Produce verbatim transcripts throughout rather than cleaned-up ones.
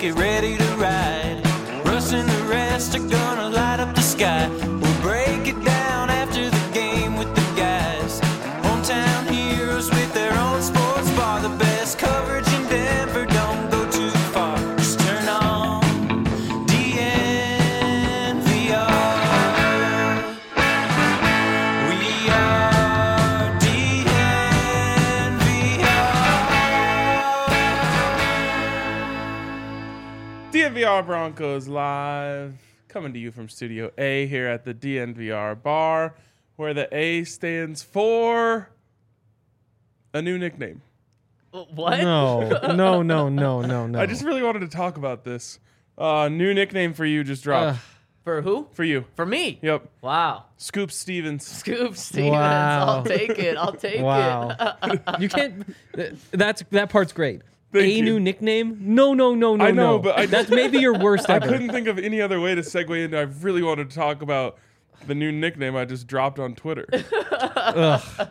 get ready to ride. Russ and the rest are gonna light up the sky. We'll break it down after the game with the guys. Hometown heroes with their own sports bar. The best coverage in Denver, don't go too far. Just turn on D N V R. We are D N V R. D N V R Broncos live, coming to you from Studio A here at the D N V R bar, where the A stands for a new nickname. What? No, no, no, no, no, no. I just really wanted to talk about this. Uh, new nickname for you just dropped. Ugh. For who? For you. For me? Yep. Wow. Scoop Stevens. Scoop Stevens. Wow. I'll take it. I'll take Wow. it. You can't. th- That's that part's great. Thank a you. new nickname? No, no, no, no, I know, no. but I- that's maybe your worst I ever. couldn't think of any other way to segue into. I really wanted to talk about the new nickname I just dropped on Twitter. Ugh.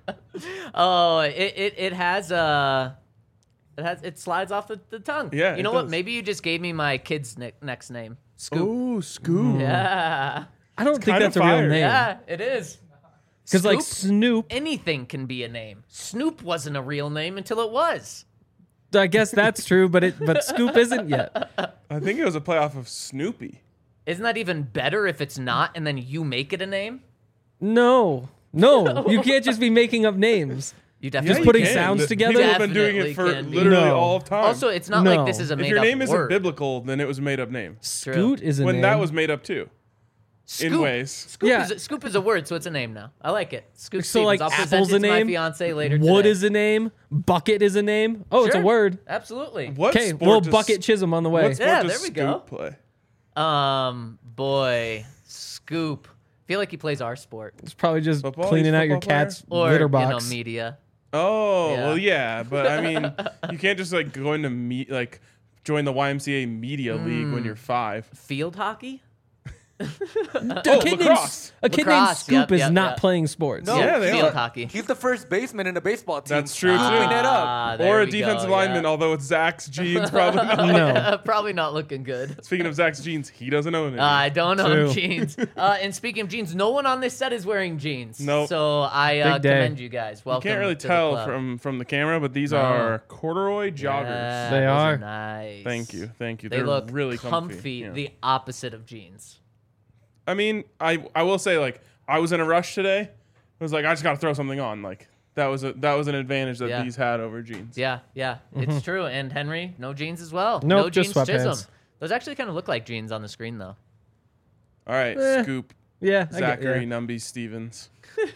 Oh, it, it, it has uh it has it slides off the, the tongue. Yeah, You it know what? does. Maybe you just gave me my kid's nick, next name. Scoop. Ooh, Scoop. Yeah. I don't think kinda that's a fire. real name. Yeah, it is. Because like Scoop, Snoop, anything can be a name. Snoop wasn't a real name until it was. I guess that's true, but it but Scoop isn't yet. I think it was a playoff of Snoopy. Isn't that even better if it's not and then you make it a name? No, no, you can't just be making up names. You Yeah, definitely you putting can. sounds The- together? People have been doing Definitely it for can be. literally No. all of time. Also, it's not No. like this is a if made your up name isn't word. biblical, then it was a made up name. Scoot is a When name. that was made up too. Scoop. ways. Scoop, Yeah. is a, Scoop is a word, so it's a name now. I like it. Scoop So, Stevens. like, I'll present apple's it a to my name? fiance later Wood today. is a name. Bucket is a name. Oh, it's a Sure. word. Absolutely. What Okay, sport little does- Bucket Chisholm on the way. What sport Yeah, does there we Scoop go. play? Um, boy, Scoop. Feel like he plays our sport It's probably just Football? cleaning He's a out your football player? cat's or litter you know box. media. Oh, Yeah. well, yeah, but I mean, you can't just like go into meet like join the Y M C A media league Hmm. when you're five. Field hockey? a Oh, kid named, lacrosse. a kid named Lacrosse, Scoop yep, is yep, not yep. playing sports. No. Yeah, they field are. hockey. He's the first baseman in a baseball team. That's true, too. Scooping it up. Ah, there Or a we defensive go, lineman, yeah. although it's Zach's jeans, probably not. No. Probably not looking good. Speaking of Zach's jeans, he doesn't own it. I don't own True. jeans. Uh, and speaking of jeans, no one on this set is wearing jeans. Nope. So I uh, Big day. commend you guys. you Welcome. can't really to the tell club. from from the camera, but these No. are corduroy joggers. Yeah, They those are. nice. Thank you, thank you. They They're look really comfy. Yeah. The opposite of jeans. I mean, I I will say like I was in a rush today. I was like, I just got to throw something on. Like that was a that was an advantage that Yeah. these had over jeans. Yeah, yeah, it's true. And Henry, no jeans as well. Nope, no just jeans, Chisholm. sweatpants. Those actually kind of look like jeans on the screen, though. All right, Eh. Scoop, Yeah, I get- Zachary yeah. Numby Stevens.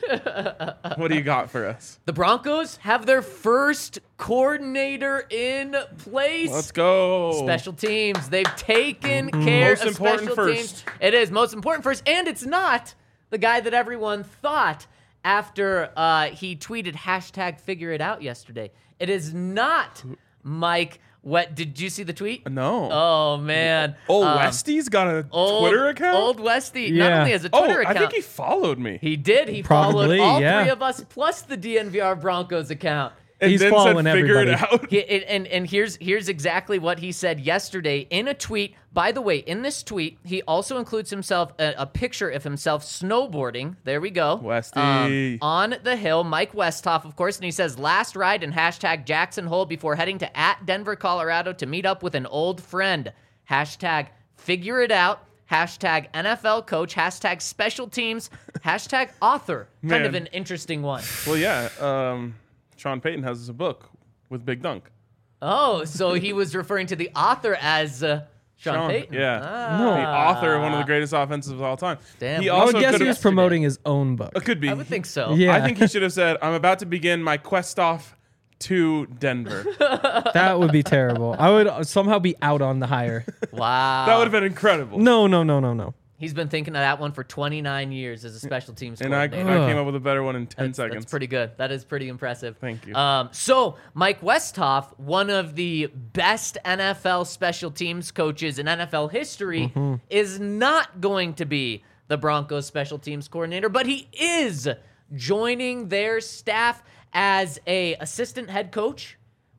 What do you got for us? The Broncos have their first coordinator in place. Let's go. Special teams. They've taken care Most of important special first. teams. It is most important first, and it's not the guy that everyone thought after uh, he tweeted hashtag figure it out yesterday. It is not Mike. What did you see the tweet? No. Oh man. Oh, Um, Westy's got a old, Twitter account. Old Westy. Not Yeah. only has a oh, Twitter I account. think he followed me. He did. He Probably, followed all yeah. three of us plus the D N V R Broncos account. and He's then following said, "Figure everybody." it out." He- and, and and here's here's exactly what he said yesterday in a tweet. By the way, in this tweet, he also includes himself a, a picture of himself snowboarding. There we go, Westy. Um, on the hill. Mike Westhoff, of course, and he says last ride and hashtag Jackson Hole before heading to at Denver, Colorado to meet up with an old friend. Hashtag figure it out. Hashtag N F L coach. Hashtag special teams. Hashtag author. Kind of Man. an interesting one. Well, yeah. Um, Sean Payton has a book with Big Dunk. Oh, so he was referring to the author as uh, Sean, Sean, Payton. yeah. Ah. The author of one of the greatest offenses of all time. Damn. He I I also would guess could he was have. promoting his own book. It could be. I would think so. Yeah. I think he should have said, "I'm about to begin my quest off to Denver." That would be terrible. I would somehow be out on the hire. Wow. That would have been incredible. No, no, no, no, no. He's been thinking of that one for twenty-nine years as a special teams And I, I coordinator. came up with a better one in ten That's, seconds. that's pretty good. That is pretty impressive. Thank you. Um, so, Mike Westhoff, one of the best N F L special teams coaches in N F L history, Mm-hmm. is not going to be the Broncos special teams coordinator, but he is joining their staff as a assistant head coach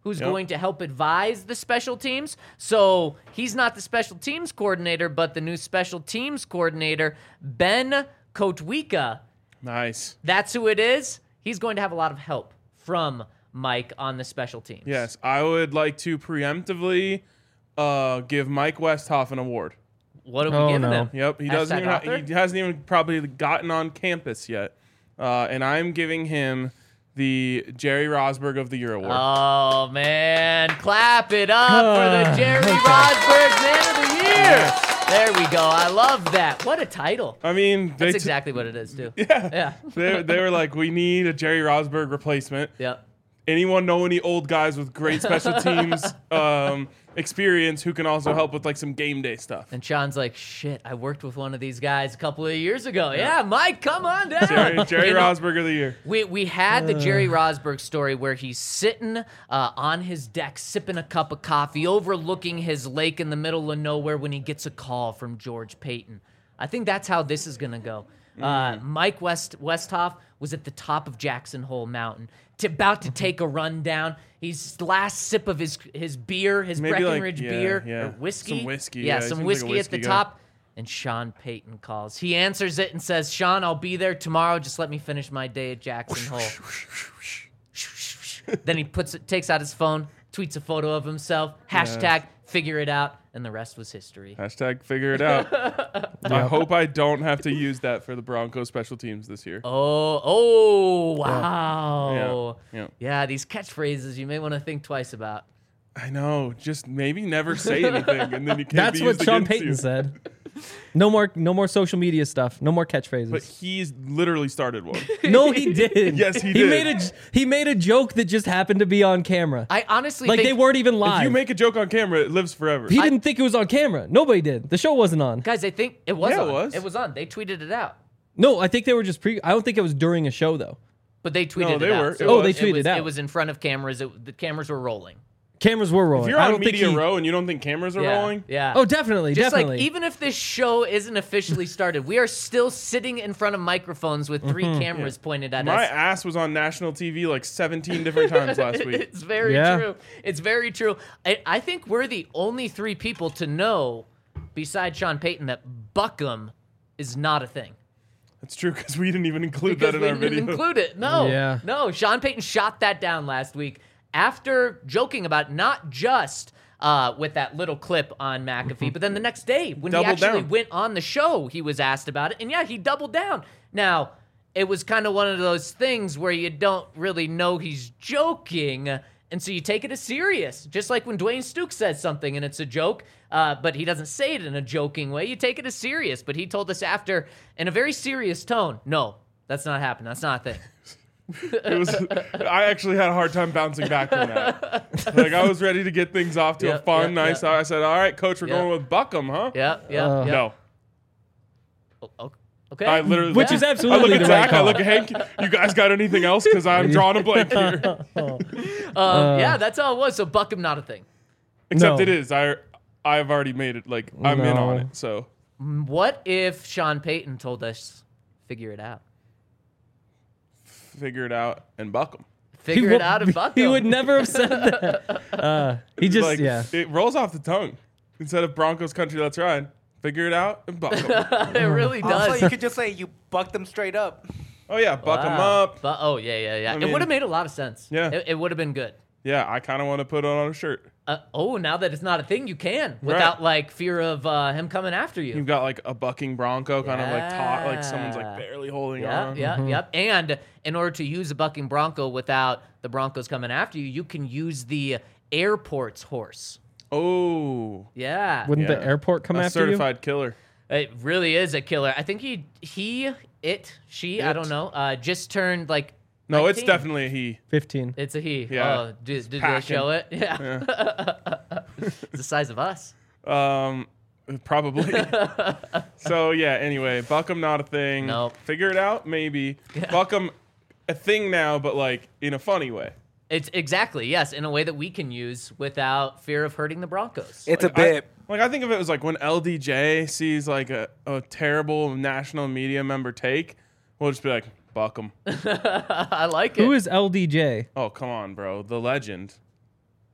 who's Yep. going to help advise the special teams. So he's not the special teams coordinator, but the new special teams coordinator, Ben Kotwika. Nice. That's who it is. He's going to have a lot of help from Mike on the special teams. Yes, I would like to preemptively uh, give Mike Westhoff an award. What are we Oh, giving no. him? Yep, he doesn't Hashtag even author? he hasn't even probably gotten on campus yet, uh, and I'm giving him the Jerry Rosberg of the Year award. Oh, man. Clap it up for the Jerry Rosberg Man of the Year. There we go. I love that. What a title. I mean, they That's t- exactly what it is, too. yeah, Yeah. they, they were like, we need a Jerry Rosberg replacement. Yep. Anyone know any old guys with great special teams um, experience who can also help with like some game day stuff? And Sean's like, shit, I worked with one of these guys a couple of years ago. Yeah, Mike, come on down. Jerry, Jerry You know, Rosberg of the Year. We, we had the Jerry Rosberg story where he's sitting uh, on his deck sipping a cup of coffee overlooking his lake in the middle of nowhere when he gets a call from George Payton. I think that's how this is going to go. Uh, Mike West Westhoff was at the top of Jackson Hole Mountain, to, about to take a run down. He's last sip of his his beer, his Maybe like- Breckenridge yeah, beer, yeah. or whiskey. Some whiskey, Yeah, yeah, he some seems like a whiskey at whiskey the guy. top. And Sean Payton calls. He answers it and says, Sean, I'll be there tomorrow. Just let me finish my day at Jackson Hole. Then he puts it, takes out his phone, tweets a photo of himself, hashtag figure it out, and the rest was history. Hashtag figure it out. I hope I don't have to use that for the Broncos special teams this year. Oh, oh, wow. Yeah, yeah. Yeah, these catchphrases you may want to think twice about. I know. Just maybe never say anything, and then you can't That's be what used Sean against Payton you. said. No more, no more social media stuff. No more catchphrases. But he's literally started one. no, he did. Yes, he He did. made a he made a joke that just happened to be on camera. I honestly like think, they weren't even live. If you make a joke on camera, it lives forever. he didn't think it was on camera. Nobody did. The show wasn't on. guys, I think it was Yeah, it on. was. It was on. They tweeted it out. No, I think they were just pre. I don't think it was during a show though. But they tweeted No, it they out. were. So It Oh, was. they it tweeted was, out. It was in front of cameras. It, the cameras were rolling. Cameras were rolling. If you're I on don't think media he- row and you don't think cameras are Yeah, rolling, yeah. Oh, definitely, Just definitely. like even if this show isn't officially started, we are still sitting in front of microphones with three Mm-hmm. cameras pointed at my us. ass was on national T V like seventeen different times last week. It's very Yeah. true. It's very true. I, I think we're the only three people to know, besides Sean Payton, that Buckham is not a thing. That's true because we didn't even include Because that in we our didn't video. include it. No. Yeah. No. Sean Payton shot that down last week after joking about not just uh, with that little clip on McAfee, but then the next day when Doubled he actually down. went on the show, he was asked about it. And yeah, he doubled down. Now, it was kind of one of those things where you don't really know he's joking. And so you take it as serious. Just like when Dwayne Stukes says something and it's a joke, uh, but he doesn't say it in a joking way, you take it as serious. But he told us after, in a very serious tone, no, that's not happening. That's not a thing. It was. I actually had a hard time bouncing back from that. Like I was ready to get things off to a Yep, fun, yep, nice. yep. I said, "All right, coach, we're Yep. going with Buckham, huh?" Yeah, yeah, Uh, yeah. No. O- Okay. I literally, Which is I absolutely look at the Zach. right I call. look at Hank. You guys got anything else? Because I'm drawing a blank here. um, uh, yeah, that's all it was. So Buckham, not a thing. Except No. it is. I I've already made it. Like I'm in on No. it. So What if Sean Payton told us, figure it out? figure it out and Buckham. Figure He it wo- out and Buckham. He would never have said that. Uh, he just, Like yeah. it rolls off the tongue. Instead of Broncos country, let's ride. Figure it out and Buckham. It really does. Also, you could just say you bucked them straight up. Oh yeah, buck 'em Wow. up. Bu- oh, yeah, yeah, yeah. I it mean- would have made a lot of sense. Yeah. It, it would have been good. Yeah, I kind of want to put it on a shirt. Uh, oh, now that it's not a thing, you can without like fear of uh, him coming after you. You've got like a bucking bronco, kind of like taut, like someone's Yeah. like barely holding Yeah, on. yeah, yep. And in order to use a bucking bronco without the Broncos coming after you, you can use the airport's horse. Oh, Yeah. Wouldn't yeah. the airport come a after certified killer. It really is a killer. I think he, he, it, she, I It. don't know, uh, just turned like. No, it's nineteen. definitely a he. you? fifteen. It's a he. Yeah. Oh, did, did they packing. show it? Yeah. It's the size of us. Um, probably. So yeah. Anyway, Buckham not a thing. Nope. Figure it out, maybe. Buckham a thing now, but like in a funny way. It's exactly, yes, in a way that we can use without fear of hurting the Broncos. It's a Like, I- bit. like I think of it as like when L D J sees like a, a terrible national media member take, we'll just be like, Buckham. I like it. Who is L D J? Oh come on, bro, the legend.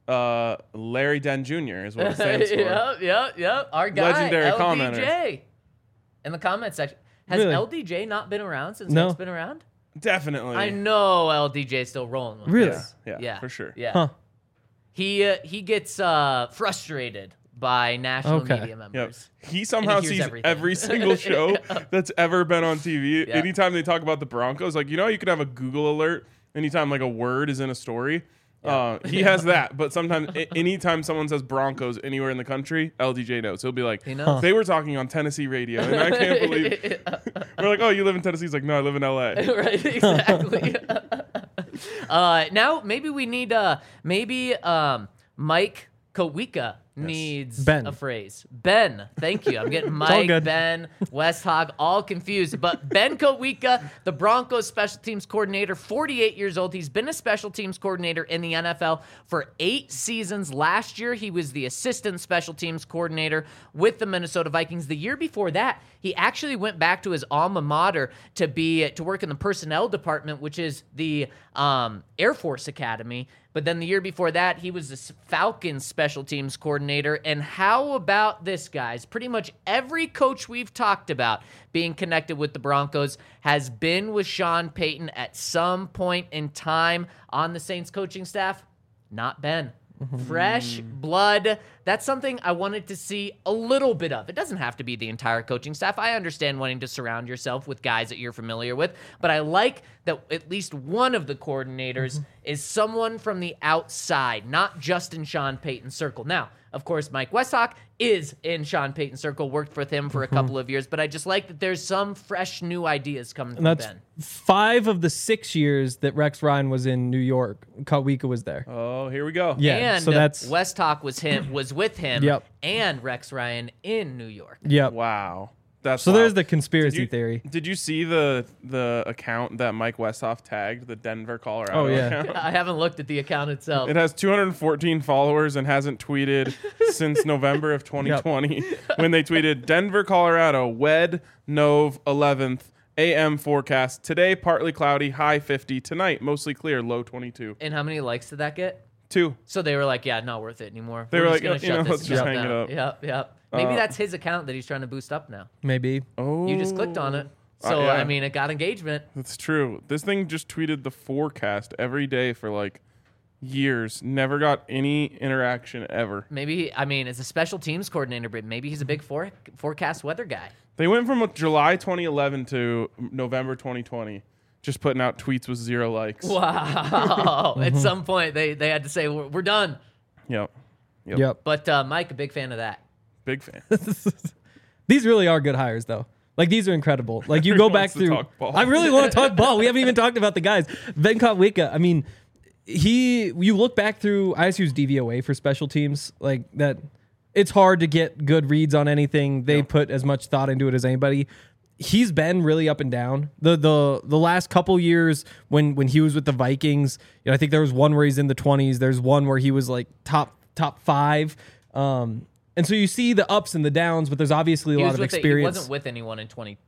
Uh, Larry Den Junior is what it stands for. Yep, yep, yep. Our guy, Legendary L D J. commenter. In the comment section. Has Really? L D J not been around since No. Hank's been around? Definitely. I know L D J's still rolling with Really? us. Yeah, yeah, for sure. Yeah. Huh. He uh, he gets uh, frustrated by national Okay. media Yep. members. He somehow hears sees everything. every single show that's ever been on T V. Yeah. Anytime they talk about the Broncos, like, you know, you could have a Google alert anytime like a word is in a story. Uh, he has that, but sometimes a- anytime someone says Broncos anywhere in the country, L D J knows. He'll be like, He knows. they were talking on Tennessee radio, and I can't believe. We're like, oh, you live in Tennessee? He's like, no, I live in L A. Right, exactly. uh, now maybe we need uh maybe um Mike Kowika needs Ben. a phrase. Ben, thank you. I'm getting all Mike, good. Ben, Westhog all confused. But Ben Kowika, the Broncos special teams coordinator, forty-eight years old. He's been a special teams coordinator in the N F L for eight seasons. Last year, he was the assistant special teams coordinator with the Minnesota Vikings. The year before that, he actually went back to his alma mater to be to work in the personnel department, which is the um, Air Force Academy. But then the year before that, he was the Falcons special teams coordinator. And how about this, guys? Pretty much every coach we've talked about being connected with the Broncos has been with Sean Payton at some point in time on the Saints coaching staff. Not Ben. Fresh blood. That's something I wanted to see a little bit of. It doesn't have to be the entire coaching staff. I understand wanting to surround yourself with guys that you're familiar with, but I like that at least one of the coordinators is someone from the outside, not just in Sean Payton's circle. Now, of course, Mike Westhock is in Sean Payton's circle, worked with him for a couple of years, but I just like that there's some fresh new ideas coming from And that's Ben. five of the six years that Rex Ryan was in New York. Kawika was there. Oh, here we go. Yeah, and so that's Westhock was him was with him Yep. and Rex Ryan in New York. yep. Wow. That's So wild. there's the conspiracy Did you- theory. Did you see the the account that Mike Westhoff tagged, the Denver, Colorado Oh, yeah. account? I haven't looked at the account itself. It has two hundred fourteen followers and hasn't tweeted since November of twenty twenty when they tweeted Denver, Colorado, Wed Nov eleventh A M forecast. Today, partly cloudy, high fifty. Tonight, mostly clear, low twenty-two. And how many likes did that get? Two. So they were like, yeah, not worth it anymore. They We're were just like, gonna you shut know, this let's just account hang it down. up. Yep, yep. Maybe Uh, that's his account that he's trying to boost up now. Maybe. Oh. You just clicked on it. Uh, So, yeah. I mean, it got engagement. That's true. This thing just tweeted the forecast every day for like years. Never got any interaction ever. Maybe, I mean, as a special teams coordinator, but maybe he's a big for- forecast weather guy. They went from July twenty eleven to November twenty twenty, just putting out tweets with zero likes. Wow. At some point, they, they had to say, we're, we're done. Yep. Yep. Yep. But uh, Mike, a big fan of that. Big fan. These really are good hires, though. Like, these are incredible. Like, you go back wants to through. talk ball. I really want to talk ball. We haven't even talked about the guys. Ben Kotwika, I mean, he, you look back through I S U's D V O A for special teams, like that, it's hard to get good reads on anything. They put as much thought into it as anybody. He's been really up and down. The the the last couple years when when he was with the Vikings, you know, I think there was one where he's in the twenties. There's one where he was like top top five. Um, and so you see the ups and the downs, but there's obviously a He lot was of with the- experience. he wasn't with anyone in twenty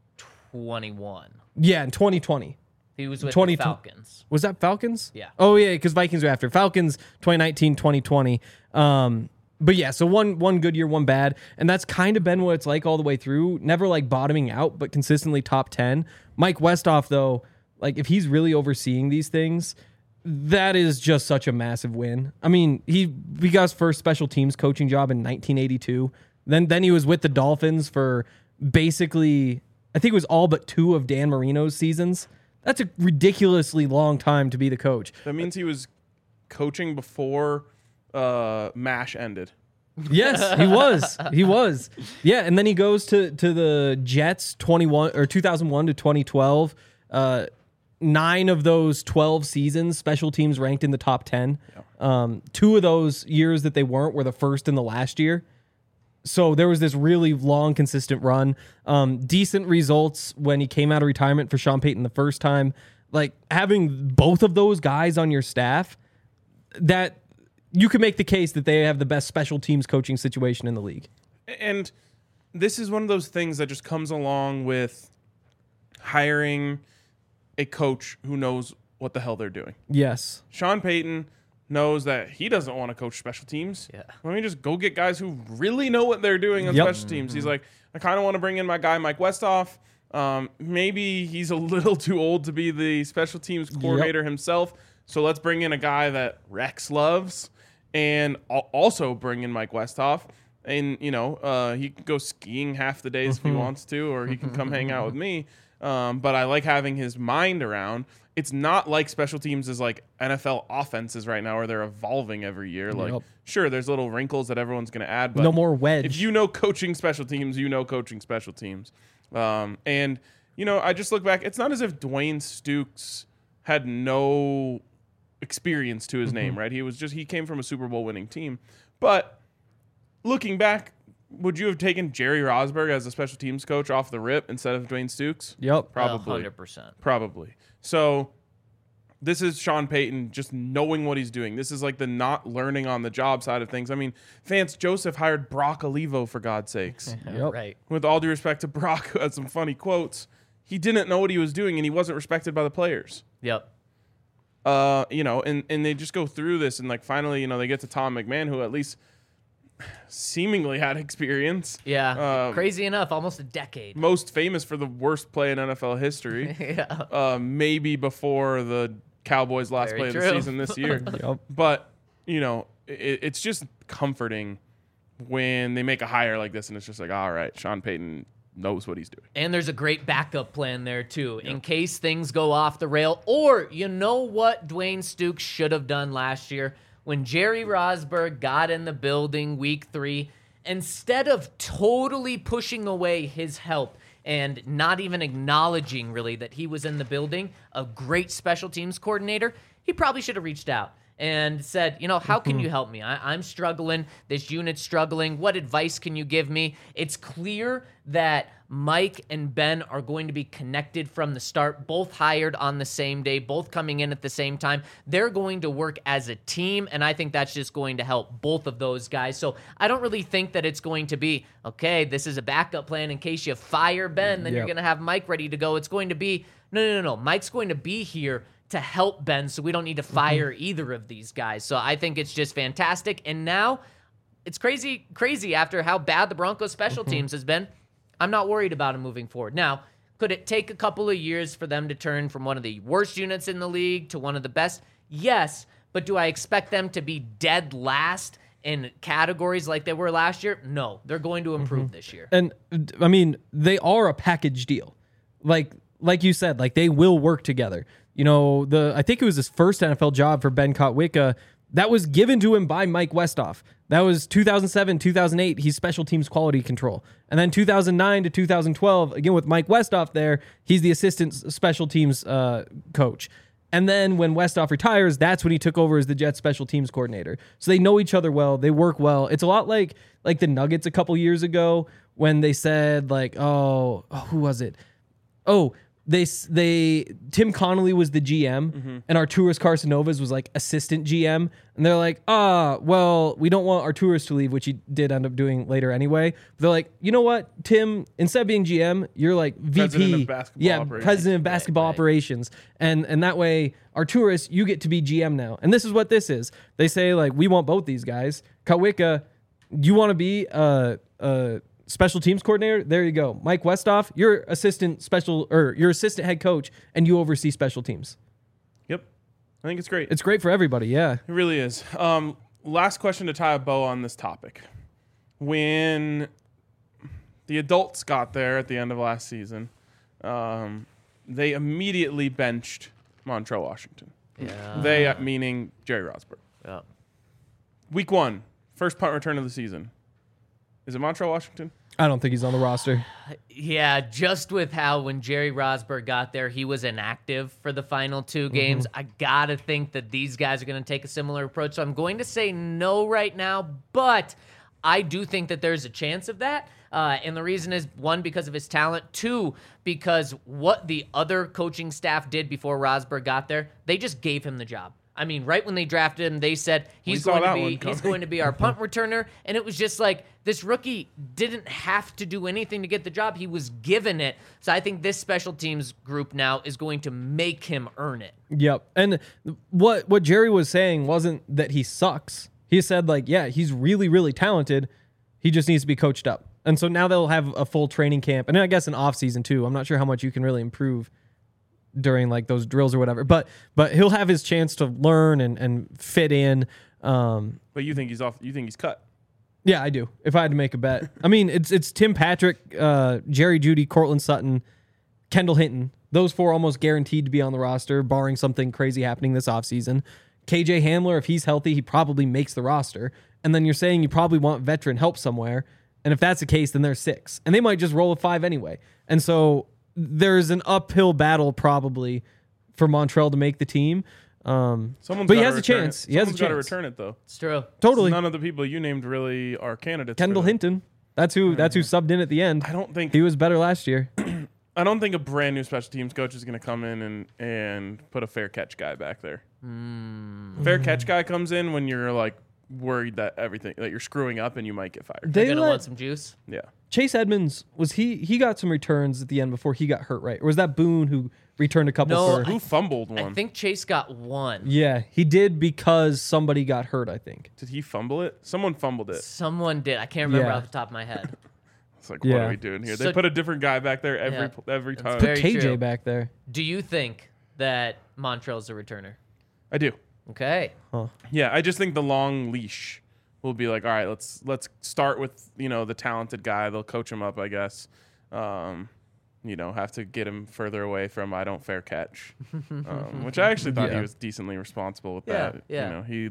twenty-one. Yeah, in twenty twenty. He was with twenty the Falcons. Was that Falcons? Yeah. Oh, yeah, because Vikings were after. Falcons, twenty nineteen, twenty twenty. Um, but yeah, so one one good year, one bad. And that's kind of been what it's like all the way through. Never like bottoming out, but consistently top ten. Mike Westhoff, though, like if he's really overseeing these things, that is just such a massive win. I mean, he, he got his first special teams coaching job in nineteen eighty-two. Then, then he was with the Dolphins for basically, I think it was all but two of Dan Marino's seasons. That's a ridiculously long time to be the coach. That means he was coaching before uh, MASH ended. Yes, he was. He was. Yeah, and then he goes to to the Jets twenty-one or two thousand one to twenty twelve. Uh, nine of those twelve seasons, special teams ranked in the top ten. Um, two of those years that they weren't were the first and the last year. So there was this really long, consistent run. Um, decent results when he came out of retirement for Sean Payton the first time. Like having both of those guys on your staff, that you can make the case that they have the best special teams coaching situation in the league. And this is one of those things that just comes along with hiring a coach who knows what the hell they're doing. Yes. Sean Payton knows that he doesn't want to coach special teams. Yeah. Let me just go get guys who really know what they're doing on Yep. special teams. He's like, I kind of want to bring in my guy, Mike Westhoff. Um, maybe he's a little too old to be the special teams coordinator himself. So let's bring in a guy that Rex loves and al- also bring in Mike Westhoff. And, you know, uh, he can go skiing half the days if he wants to, or he can come hang out with me. Um, but I like having his mind around. It's not like special teams is like N F L offenses right now where they're evolving every year. Like, Yep. sure, there's little wrinkles that everyone's going to add. But No more wedge. if you know coaching special teams, you know coaching special teams. Um, and, you know, I just look back. It's not as if Dwayne Stukes had no experience to his name, right? He was just, he came from a Super Bowl winning team. But looking back, would you have taken Jerry Rosburg as a special teams coach off the rip instead of Dwayne Stukes? Yep. Probably. one hundred percent. Probably. So this is Sean Payton just knowing what he's doing. This is like the not learning on the job side of things. I mean, Vance Joseph hired Brock Olivo, for God's sakes. Yep. Right. With all due respect to Brock, who had some funny quotes, he didn't know what he was doing and he wasn't respected by the players. Yep. Uh, you know, and, and they just go through this and like finally, you know, they get to Tom McMahon, who at least seemingly had experience. Yeah. Um, Crazy enough, almost a decade. Most famous for the worst play in N F L history. Yeah. uh, maybe before the Cowboys' last Very play true. of the season this year. Yep. But, you know, it, it's just comforting when they make a hire like this and it's just like, all right, Sean Payton knows what he's doing. And there's a great backup plan there, too, in case things go off the rail. Or, you know what Dwayne Stukes should have done last year? When Jerry Rosburg got in the building week three, instead of totally pushing away his help and not even acknowledging, really, that he was in the building, a great special teams coordinator, he probably should have reached out and said, you know, how can you help me? I, I'm struggling. This unit's struggling. What advice can you give me? It's clear that Mike and Ben are going to be connected from the start, both hired on the same day, both coming in at the same time. They're going to work as a team, and I think that's just going to help both of those guys. So I don't really think that it's going to be, okay, this is a backup plan in case you fire Ben, then Yep. you're going to have Mike ready to go. It's going to be, no, no, no, no. Mike's going to be here to help Ben, so we don't need to fire either of these guys. So I think it's just fantastic. And now it's crazy, crazy after how bad the Broncos special teams has been. I'm not worried about him moving forward. Now, could it take a couple of years for them to turn from one of the worst units in the league to one of the best? Yes, but do I expect them to be dead last in categories like they were last year? No, they're going to improve this year. And I mean, they are a package deal. Like like you said, like they will work together. You know, the I think it was his first N F L job for Ben Kotwica. That was given to him by Mike Westhoff. That was two thousand seven, two thousand eight. He's special teams quality control. And then two thousand nine to two thousand twelve, again with Mike Westhoff there, he's the assistant special teams uh, coach. And then when Westhoff retires, that's when he took over as the Jets special teams coordinator. So they know each other well. They work well. It's a lot like like the Nuggets a couple years ago when they said like, oh, oh who was it? Oh, They they Tim Connolly was the G M Mm-hmm. and Arturas Carcinovas was like assistant G M, and they're like, ah, well, we don't want Arturas to leave, which he did end up doing later anyway. But they're like, you know what, Tim, instead of being G M, you're like V P, President of basketball yeah, operations. president of basketball right. operations, and and that way, Arturas, you get to be G M now. And this is what this is. They say like, we want both these guys. Kotwica, you want to be a. a special teams coordinator, there you go. Mike Westhoff, you're assistant special or your assistant head coach, and you oversee special teams. Yep. I think it's great. It's great for everybody, yeah. It really is. Um, last question to tie a bow on this topic. When the adults got there at the end of last season, um, they immediately benched Montrell Washington. Yeah. They, uh, meaning Jerry Rosburg. Yeah. Week one, first punt return of the season. Is it Montrell Washington? I don't think he's on the roster. Yeah, just with how when Jerry Rosburg got there, he was inactive for the final two games. I got to think that these guys are going to take a similar approach. So I'm going to say no right now, but I do think that there's a chance of that. Uh, and the reason is, one, because of his talent. Two, because what the other coaching staff did before Rosburg got there, they just gave him the job. I mean, right when they drafted him, they said he's saw going to that be one he's coming. going to be our punt returner, and it was just like this rookie didn't have to do anything to get the job; he was given it. So I think this special teams group now is going to make him earn it. Yep. And what what Jerry was saying wasn't that he sucks. He said like, yeah, he's really really talented. He just needs to be coached up. And so now they'll have a full training camp, and I guess an off season too. I'm not sure how much you can really improve during like those drills or whatever, but but he'll have his chance to learn and, and fit in. Um, But you think he's off? You think he's cut? yeah, I do. If I had to make a bet, I mean, it's it's Tim Patrick, uh, Jerry Jeudy, Cortland Sutton, Kendall Hinton. Those four almost guaranteed to be on the roster, barring something crazy happening this offseason. K J Hamler, if he's healthy, he probably makes the roster. And then you're saying you probably want veteran help somewhere. And if that's the case, then there's six. And they might just roll a five anyway. And so there's an uphill battle probably for Montrell to make the team. Um, Someone's but he gotta has a return chance. It. He has a Someone's got to chance. return it though. It's true. Totally. None of the people you named really are candidates. Kendall for that. Hinton. That's who. That's who subbed in at the end. I don't think He was better last year. I don't think a brand new special teams coach is going to come in and, and put a fair catch guy back there. Mm. Fair catch guy comes in when you're like worried that everything that you're screwing up and you might get fired. You're They gonna let want some juice. Yeah. Chase Edmonds was he? He got some returns at the end before he got hurt, right? Or was that Boone who returned a couple? No, for, Who fumbled one? I think Chase got one. yeah, he did because somebody got hurt. I think. Did he fumble it? Someone fumbled it. Someone did. I can't remember Yeah. off the top of my head. It's like, what Yeah. are we doing here? So- they put a different guy back there every Yeah. every That's time. very K J true. back there. Do you think that Montrell's a returner? I do. Okay. Yeah, I just think the long leash will be like, all right, let's let's start with, you know, the talented guy. They'll coach him up, I guess. Um, you know, have to get him further away from I don't fair catch, um, which I actually thought Yeah. he was decently responsible with Yeah, that. yeah. You know, he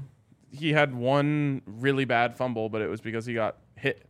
he had one really bad fumble, but it was because he got hit.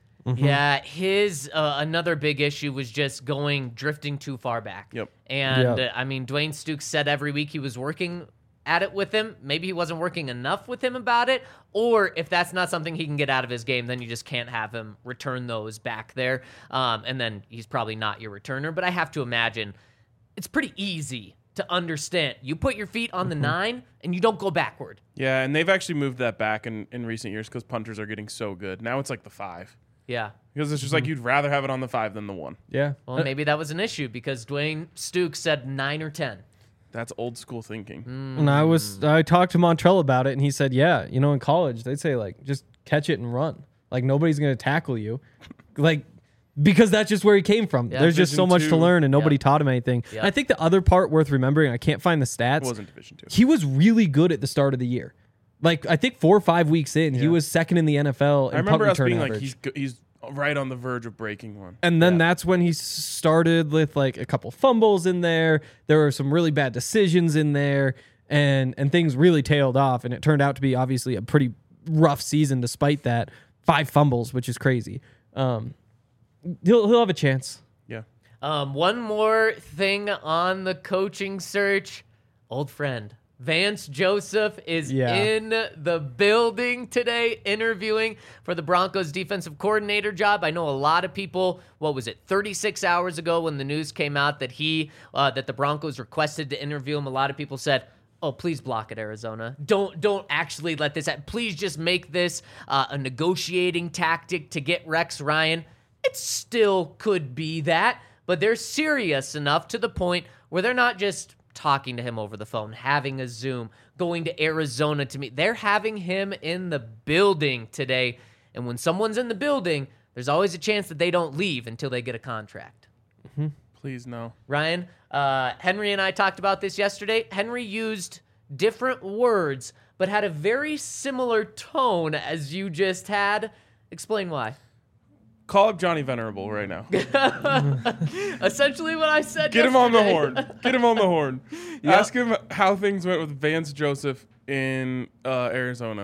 Yeah, his uh, another big issue was just going drifting too far back. Yep. And Yep. uh, I mean, Dwayne Stukes said every week he was working at it with him. Maybe he wasn't working enough with him about it, or if that's not something he can get out of his game, then you just can't have him return those back there. Um, and then he's probably not your returner. But I have to imagine it's pretty easy to understand. You put your feet on the nine and you don't go backward. Yeah, and they've actually moved that back in, in recent years because punters are getting so good. Now it's like the five. Yeah. Because it's just like you'd rather have it on the five than the one. Yeah. Well, maybe that was an issue because Dwayne Stukes said nine or ten. That's old school thinking. And I was I talked to Montrell about it, and he said, yeah, you know, in college they'd say like just catch it and run. Like nobody's gonna tackle you, like because that's just where he came from. Yeah. There's just so Division much to two. learn, and nobody Yeah. taught him anything. Yeah. I think the other part worth remembering, I can't find the stats. It wasn't Division Two. He was really good at the start of the year. Like I think four or five weeks in, he Yeah. was second in the N F L in I remember punt us return being average. like, he's go- he's right on the verge of breaking one. And then Yeah. that's when he started with like a couple fumbles in there. There were some really bad decisions in there, and and things really tailed off. And it turned out to be obviously a pretty rough season despite that. Five fumbles, which is crazy. Um, he'll he'll have a chance. Yeah. Um, one more thing on the coaching search. Old friend Vance Joseph is Yeah. in the building today interviewing for the Broncos defensive coordinator job. I know a lot of people, what was it, thirty-six hours ago when the news came out that he, uh, that the Broncos requested to interview him, a lot of people said, oh, please block it, Arizona. Don't don't actually let this happen. Please just make this uh, a negotiating tactic to get Rex Ryan. It still could be that, but they're serious enough to the point where they're not just talking to him over the phone, having a Zoom, going to Arizona to meet. They're having him in the building today. And when someone's in the building, there's always a chance that they don't leave until they get a contract. Please no. Ryan, uh, Henry and I talked about this yesterday. Henry used different words, but had a very similar tone as you just had. Explain why. Call up Johnny Venerable right now. Essentially what I said Get him on the yesterday. horn. Get him on the horn. Ask him how things went with Vance Joseph in uh, Arizona.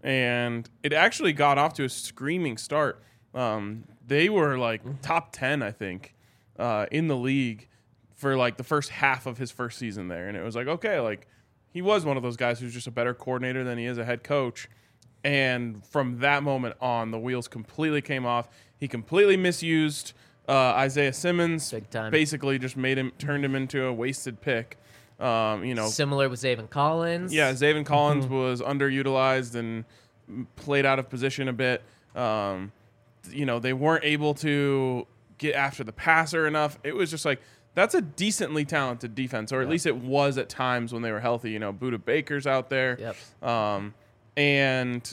And it actually got off to a screaming start. Um, they were like top ten, I think, uh, in the league for like the first half of his first season there. And it was like, okay, like he was one of those guys who's just a better coordinator than he is a head coach. And from that moment on, the wheels completely came off. He completely misused uh, Isaiah Simmons. Big time. Basically, just made him, turned him into a wasted pick. Um, you know, Similar with Zaven Collins. yeah, Zaven Collins was underutilized and played out of position a bit. Um, you know, they weren't able to get after the passer enough. It was just like, that's a decently talented defense, or at least it was at times when they were healthy. You know, Budda Baker's out there. Yep. Um, and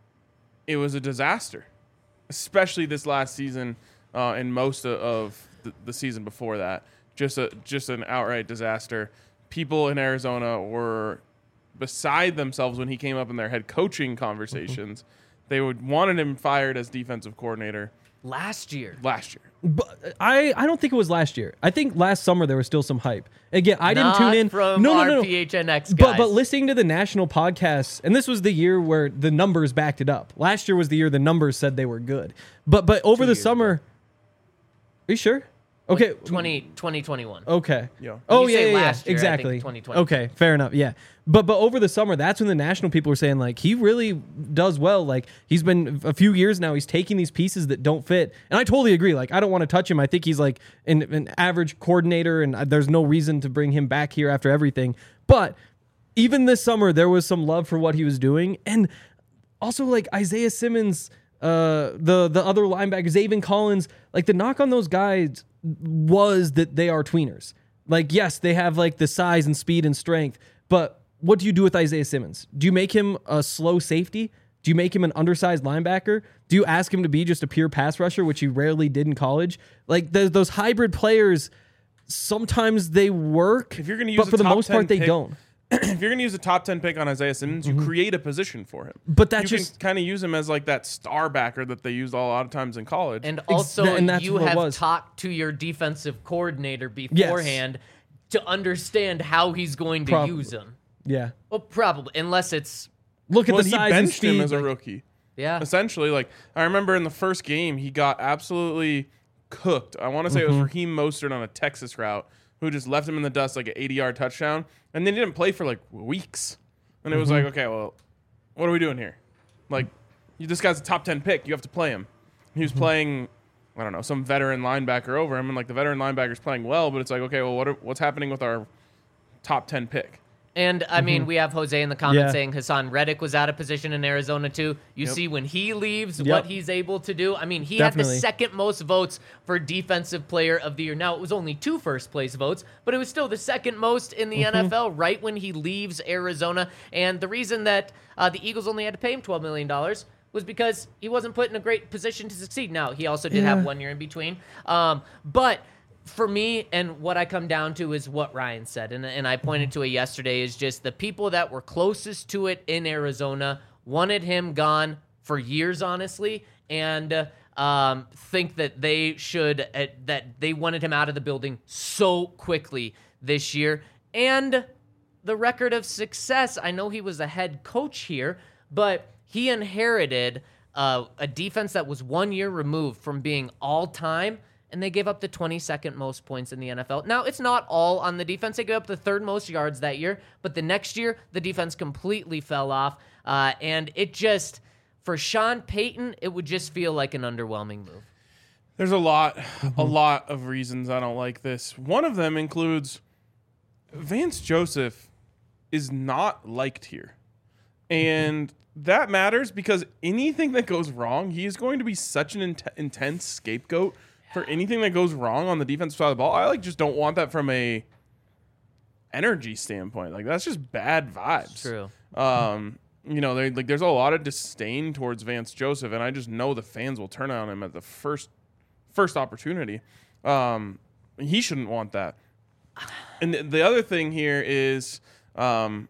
it was a disaster, especially this last season uh, and most of, of the, the season before that. Just a just an outright disaster. People in Arizona were beside themselves when he came up in their head coaching conversations. Mm-hmm. They would wanted him fired as defensive coordinator Last year. last year. But I, I don't think it was last year. I think last summer there was still some hype. Again, I didn't Not tune in. from no, no, our no, no. P H N X But guys. but listening to the national podcasts, and this was the year where the numbers backed it up. Last year was the year the numbers said they were good. But but over Two the years summer, are you sure? Okay. twenty, twenty twenty-one. Okay. Yeah. Oh When you yeah, say yeah, yeah. last year, I think exactly. twenty twenty. Okay, fair enough. Yeah, but but over the summer, that's when the national people were saying like he really does well. Like he's been a few years now. He's taking these pieces that don't fit, and I totally agree. Like I don't want to touch him. I think he's like an, an average coordinator, and there's no reason to bring him back here after everything. But even this summer, there was some love for what he was doing, and also like Isaiah Simmons, uh, the the other linebacker, Zaven Collins. Like the knock on those guys was that they are tweeners. Like, yes, they have like the size and speed and strength, but what do you do with Isaiah Simmons? Do you make him a slow safety? Do you make him an undersized linebacker? Do you ask him to be just a pure pass rusher, which he rarely did in college? Like those, those hybrid players, sometimes they work, If you're going to use but a for the top most ten part, they pick- don't. if you're going to use a top ten pick on Isaiah Simmons, you create a position for him. But that's you just- can kind of use him as like that star backer that they used a lot of times in college. And also, and that's you what it have was. talked to your defensive coordinator beforehand to understand how he's going to Probably. use him. Yeah. Well, probably, unless it's Look at well, the he size and benched speed. him as a like- rookie. yeah. Essentially, like I remember in the first game, he got absolutely cooked. I want to say it was Mm-hmm. Raheem Mostert on a Texas route who just left him in the dust like an eighty-yard touchdown, and then he didn't play for like weeks. And it was Mm-hmm. like, okay, well, what are we doing here? Like, you, this guy's a top ten pick. You have to play him. He was Mm-hmm. playing, I don't know, some veteran linebacker over him, and like the veteran linebacker's playing well, but it's like, okay, well, what are, what's happening with our top ten pick? And I mean, we have Jose in the comments Mm-hmm. Yeah. saying Hassan Reddick was out of position in Arizona too. You Yep. see when he leaves, Yep. what he's able to do. I mean, he Definitely. had the second most votes for Defensive Player of the Year. Now, it was only two first place votes, but it was still the second most in the Mm-hmm. N F L right when he leaves Arizona. And the reason that uh, the Eagles only had to pay him twelve million dollars was because he wasn't put in a great position to succeed. Now, he also did Yeah. have one year in between. Um, but for me, and what I come down to is what Ryan said, and, and I pointed to it yesterday, is just the people that were closest to it in Arizona wanted him gone for years, honestly, and uh, um, think that they should, uh, that they wanted him out of the building so quickly this year. And the record of success, I know he was a head coach here, but he inherited uh, a defense that was one year removed from being all-time, and they gave up the twenty-second most points in the N F L. Now, it's not all on the defense. They gave up the third most yards that year, but the next year, the defense completely fell off, uh, and it just, for Sean Payton, it would just feel like an underwhelming move. There's a lot, a lot of reasons I don't like this. One of them includes Vance Joseph is not liked here. And that matters because anything that goes wrong, he is going to be such an int- intense scapegoat for anything that goes wrong on the defensive side of the ball. I like just don't want that from a energy standpoint. Like that's just bad vibes. True. Um, you know, they, like there's a lot of disdain towards Vance Joseph, and I just know the fans will turn on him at the first first opportunity. Um, he shouldn't want that. And th- the other thing here is, um,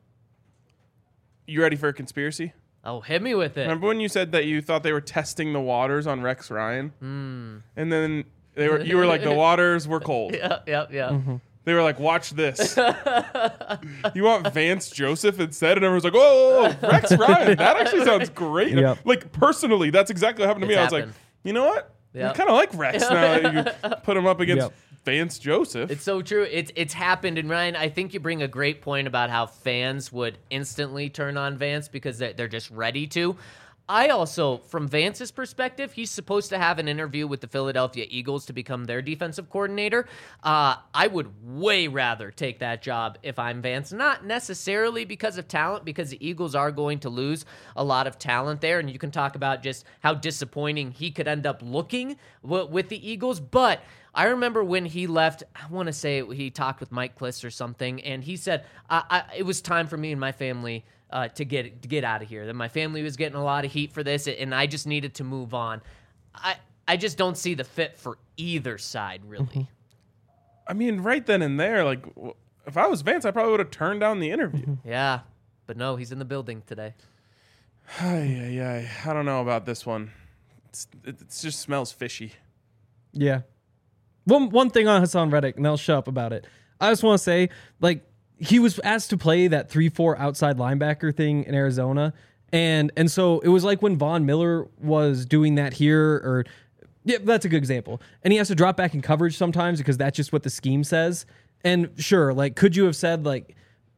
you ready for a conspiracy? Oh, hit me with it. Remember when you said that you thought they were testing the waters on Rex Ryan, Mm. and then they were you were like the waters were cold. Yeah, yeah, yeah. They were like, watch this. You want Vance Joseph instead? And everyone's like, whoa, whoa, whoa, Rex Ryan. That actually sounds great. Yep. Like, personally, that's exactly what happened to It's me. I was happened. like, you know what? Yep. I kind of like Rex now that you put him up against Yep. Vance Joseph. It's so true. It's it's happened. And Ryan, I think you bring a great point about how fans would instantly turn on Vance because they're, they're just ready to. I also, from Vance's perspective, he's supposed to have an interview with the Philadelphia Eagles to become their defensive coordinator. Uh, I would way rather take that job if I'm Vance. Not necessarily because of talent, because the Eagles are going to lose a lot of talent there, and you can talk about just how disappointing he could end up looking w- with the Eagles. But I remember when he left, I want to say he talked with Mike Kliss or something, and he said, I, I, it was time for me and my family Uh, to get to get out of here. That my family was getting a lot of heat for this, and I just needed to move on. I I just don't see the fit for either side, really. I mean, right then and there, like, w- if I was Vance, I probably would have turned down the interview. Yeah, but no, he's in the building today. Ay, ay, ay. I don't know about this one. It's, it, it just smells fishy. Yeah. One one thing on Hassan Reddick, and I'll shut up about it. I just want to say, like, he was asked to play that three four outside linebacker thing in Arizona. And and so it was like when Von Miller was doing that here, or yeah, that's a good example. And he has to drop back in coverage sometimes because that's just what the scheme says. And sure, like, could you have said, like,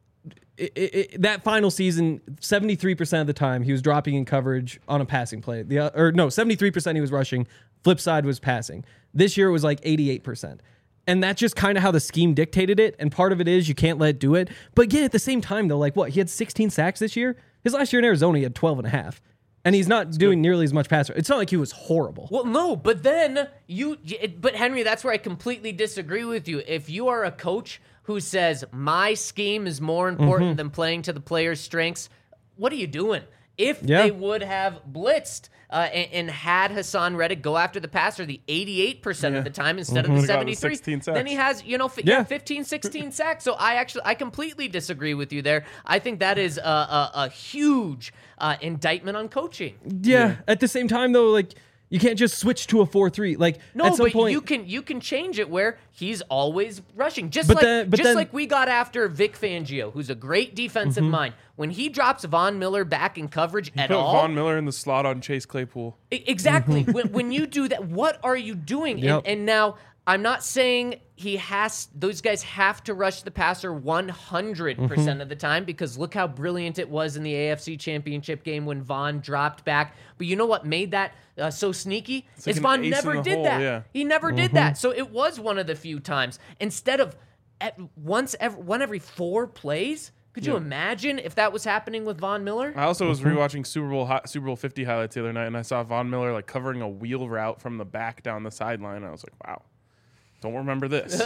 it, it, it, that final season, seventy-three percent of the time he was dropping in coverage on a passing play. The uh, or no, seventy-three percent he was rushing. Flip side was passing. This year it was like eighty-eight percent. And that's just kind of how the scheme dictated it. And part of it is you can't let it do it. But again, at the same time, though, like, what? He had sixteen sacks this year? His last year in Arizona, he had twelve and a half. And he's not that's doing good. Nearly as much passer. It's not like he was horrible. Well, no, but then you, but Henry, that's where I completely disagree with you. If you are a coach who says my scheme is more important mm-hmm. than playing to the player's strengths, what are you doing? If yeah. they would have blitzed uh, and, and had Hassan Reddick go after the passer the eighty-eight percent yeah. of the time instead mm-hmm. of the seventy-three, the then he has, you know, f- yeah. fifteen, sixteen sacks. So I actually, I completely disagree with you there. I think that is a, a, a huge uh, indictment on coaching. Yeah. yeah. At the same time, though, like, you can't just switch to a four three. Like, no, at some but point, you can you can change it where he's always rushing. Just but like then, but just then, like we got after Vic Fangio, who's a great defensive mm-hmm. mind. When he drops Von Miller back in coverage he at put all, Von Miller in the slot on Chase Claypool. Exactly. when, when you do that, what are you doing? Yep. And, and now I'm not saying he has, those guys have to rush the passer one hundred percent mm-hmm. of the time, because look how brilliant it was in the A F C Championship game when Von dropped back. But you know what made that uh, so sneaky? It's like is Von ace never in the did hole, that. Yeah. He never mm-hmm. did that. So it was one of the few times. Instead of at once every, one every four plays, could you yeah. imagine if that was happening with Von Miller? I also was rewatching Super Bowl hi- Super Bowl fifty highlights the other night, and I saw Von Miller like covering a wheel route from the back down the sideline. And I was like, wow, don't remember this.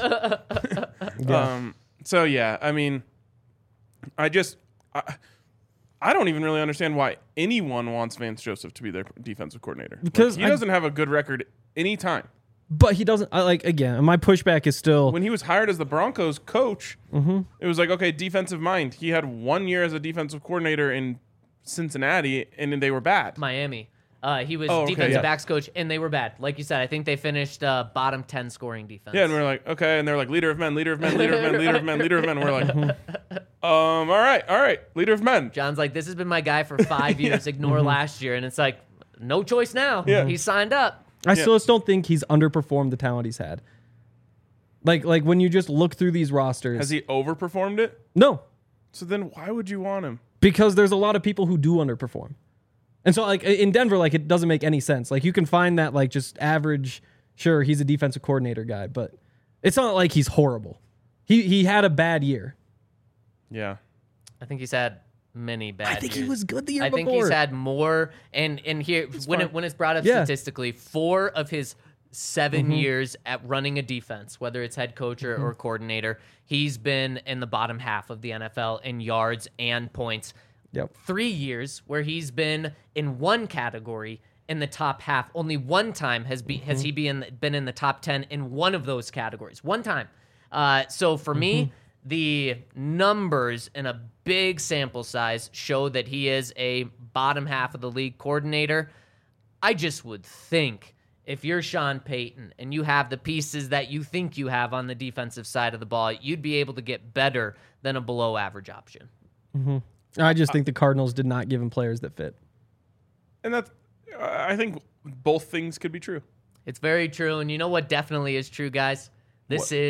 yeah. Um. So yeah, I mean, I just I, I don't even really understand why anyone wants Vance Joseph to be their defensive coordinator, because like, he I, doesn't have a good record anytime. But he doesn't, I like, again, my pushback is still... When he was hired as the Broncos coach, mm-hmm. it was like, okay, defensive mind. He had one year as a defensive coordinator in Cincinnati, and they were bad. Miami. Uh, he was oh, okay, defensive yeah. backs coach, and they were bad. Like you said, I think they finished uh, bottom ten scoring defense. Yeah, and we're like, okay, and they're like, leader of men, leader of men, leader of men, leader of men, leader of men. We're like, um, all right, all right, leader of men. John's like, this has been my guy for five years. yeah. Ignore mm-hmm. last year, and it's like, no choice now. Yeah. He signed up. I Yeah. still just don't think he's underperformed the talent he's had. Like, like when you just look through these rosters. Has he overperformed it? No, So then why would you want him? because there's a lot of people who do underperform. And so, like, in Denver, like, it doesn't make any sense. Like, you can find that, like, just average, sure, he's a defensive coordinator guy, but it's not like he's horrible. He he had a bad year. Yeah. I think he's had many bad I think years. he was good the year I before. think he's had more, and and here when fine. it when it's brought up Yeah. statistically, four of his seven Mm-hmm. years at running a defense, whether it's head coach or, or coordinator, he's been in the bottom half of the N F L in yards and points. Yep. Three years where he's been in one category in the top half. Only one time has be has he been been in the top ten in one of those categories. One time. Uh, so for me, the numbers in a big sample size show that he is a bottom half of the league coordinator. I just would think if you're Sean Payton and you have the pieces that you think you have on the defensive side of the ball, you'd be able to get better than a below average option. Mm-hmm. I just think the Cardinals did not give him players that fit. And that's, I think both things could be true. It's very true. And you know what definitely is true, guys? This What? is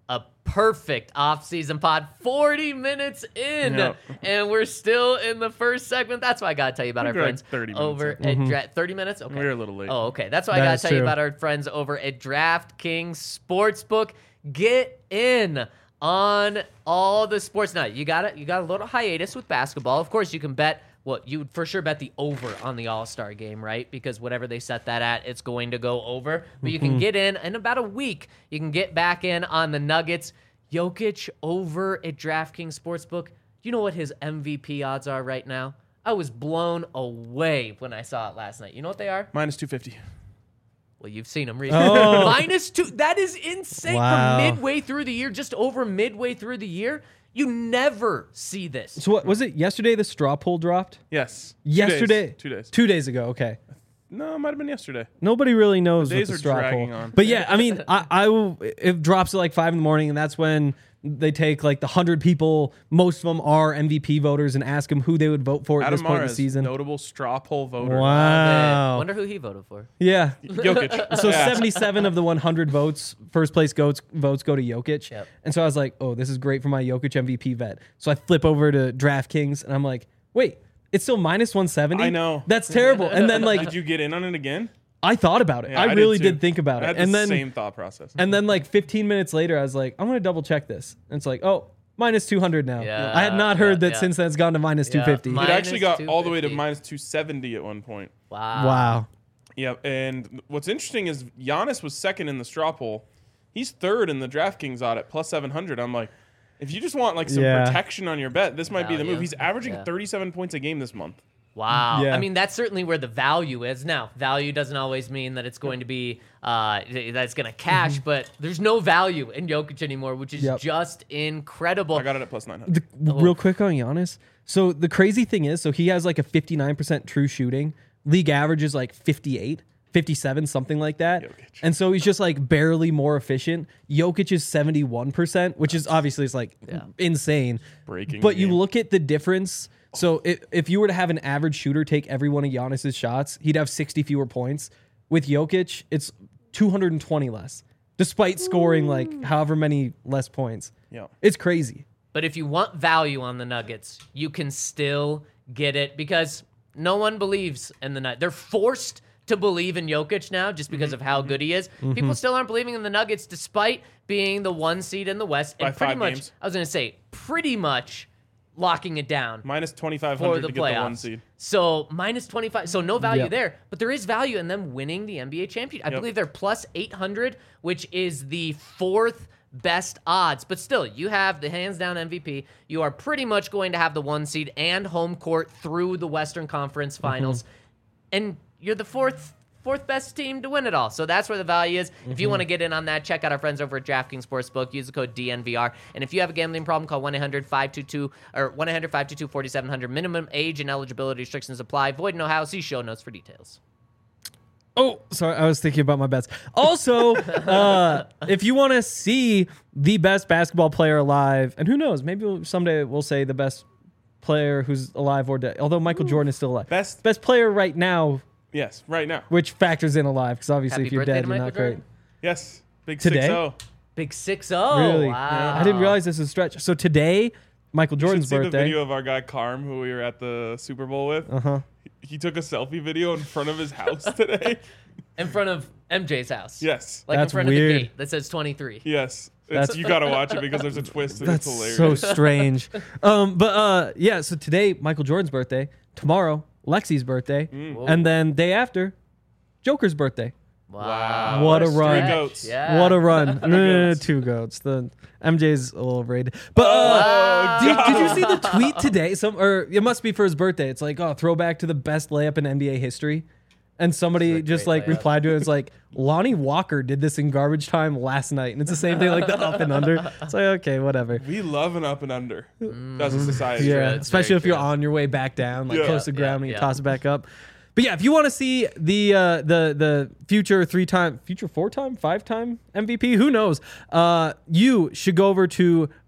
A perfect off-season pod, forty minutes in, Yep. and we're still in the first segment. That's why I gotta tell you about our We're like friends thirty minutes over in. at Mm-hmm. Dra- thirty minutes. Okay, We're a little late. Oh, okay. That's why I That gotta is tell you true. about our friends over at DraftKings Sportsbook. Get in on all the sports now. You got it. You got a little hiatus with basketball. Of course, you can bet. What you would for sure bet the over on the All-Star game, right? Because whatever they set that at, it's going to go over. But you can get in in about a week. You can get back in on the Nuggets. Jokic over at DraftKings Sportsbook. You know what his M V P odds are right now? I was blown away when I saw it last night. You know what they are? Minus two fifty. Well, you've seen them recently. Oh. Minus two. That is insane. Wow. For midway through the year, just over midway through the year, you never see this. So what was it yesterday? The straw poll dropped. Yes. Two Yesterday, days. Two days. two days ago. Okay. No, it might have been yesterday. Nobody really knows The what days the are straw dragging poll. on. But yeah, I mean, I, I will. It drops at like five in the morning, and that's when they take like the hundred people. Most of them are M V P voters, and ask them who they would vote for at Adam this point in the Mares, season. notable straw poll voter. I Wow. wonder who he voted for. Yeah. Jokic. So Yeah. seventy-seven of the one hundred votes, first place votes votes go to Jokic. Yep. And so I was like, oh, this is great for my Jokic M V P vet. So I flip over to DraftKings, and I'm like, wait, it's still minus one seventy? I know. That's terrible. And then like Did you get in on it again? I thought about it. Yeah, I did really too. did think about I it. had And the then same thought process. and then like fifteen minutes later, I was like, I'm gonna double check this. And it's like, oh, minus two hundred now. Yeah, I had not heard yeah, that yeah. since then it's gone to minus Yeah. two fifty. Mi- it actually got minus all the way to two fifty. minus two seventy at one point. Wow. Wow. Yeah, and what's interesting is Giannis was second in the straw poll. He's third in the DraftKings audit, plus seven hundred. I'm like, if you just want like some Yeah. protection on your bet, this might be the Value. move. He's averaging Yeah. thirty-seven points a game this month. Wow. Yeah. I mean, that's certainly where the value is. Now, value doesn't always mean that it's going to be, uh, that it's going to cash, but there's no value in Jokic anymore, which is Yep. just incredible. I got it at plus nine hundred. The, real quick on Giannis. So the crazy thing is, so he has like a fifty-nine percent true shooting. League average is like fifty-eight, fifty-seven, something like that. Jokic. And so he's just like barely more efficient. Jokic is seventy-one percent, which is obviously it's like Yeah. insane. Breaking But the you game. look at the difference. So if, if you were to have an average shooter take every one of Giannis's shots, he'd have sixty fewer points. With Jokic, it's two hundred twenty less, despite scoring like however many less points. Yeah. It's crazy. But if you want value on the Nuggets, you can still get it because no one believes in the Nuggets. They're forced to believe in Jokic now just because Mm-hmm. of how good he is. People still aren't believing in the Nuggets despite being the one seed in the West. By And pretty five much, games. I was going to say, pretty much locking it down. Minus twenty-five For hundred the to get the one playoffs. seed. So minus twenty-five. So no value Yeah. there, but there is value in them winning the N B A championship. I Yep. believe they're plus eight hundred, which is the fourth best odds. But still, you have the hands down M V P. You are pretty much going to have the one seed and home court through the Western Conference Finals. And you're the fourth fourth best team to win it all. So that's where the value is. If you want to get in on that, check out our friends over at DraftKings Sportsbook. Use the code D N V R. And if you have a gambling problem, call one eight hundred five two two or one eight hundred five two two four seven zero zero. Minimum age and eligibility restrictions apply. Void in Ohio. See show notes for details. Oh, sorry. I was thinking about my bets. Also, uh, if you want to see the best basketball player alive, and who knows, maybe we'll, someday we'll say the best player who's alive or dead. Although Michael Jordan is still alive. Best- best player right now, Yes, right now. which factors in alive because obviously Happy if you're birthday dead, to you're Michael not Jordan. great. Yes. Big Today? six oh. Big six oh. Really, Wow. I didn't realize this was a stretch. So today, Michael You should Jordan's see the birthday. video of our guy Carm, who we were at the Super Bowl with. Uh huh. He took a selfie video in front of his house today. In front of M J's house. Yes. Like That's in front weird. of the gate that says twenty-three. Yes. That's- It's, you gotta watch it because there's a twist and That's it's hilarious. so strange. um, but uh, yeah. So today, Michael Jordan's birthday. Tomorrow, Lexi's birthday, Mm. and then day after, Joker's birthday. Wow. What a Stretch. run. Three goats. Yeah. What a run! no, no, no, goats. two goats. The M J's a little overrated. But uh, Oh, did, did you God. see the tweet today? Some or it must be for his birthday. It's like, oh, throwback to the best layup in N B A history. And somebody This is a just great like layup. replied to it. It's like Lonnie Walker did this in garbage time last night, and it's the same thing like the up and under. It's like okay, whatever. We love an up and under as a society. Yeah, it's especially very if you're true. on your way back down, like Yeah. close to the Yeah, ground, and you yeah. toss it back up. But yeah, if you want to see the uh, the the future three time, future four time, five time M V P, who knows? Uh, you should go over to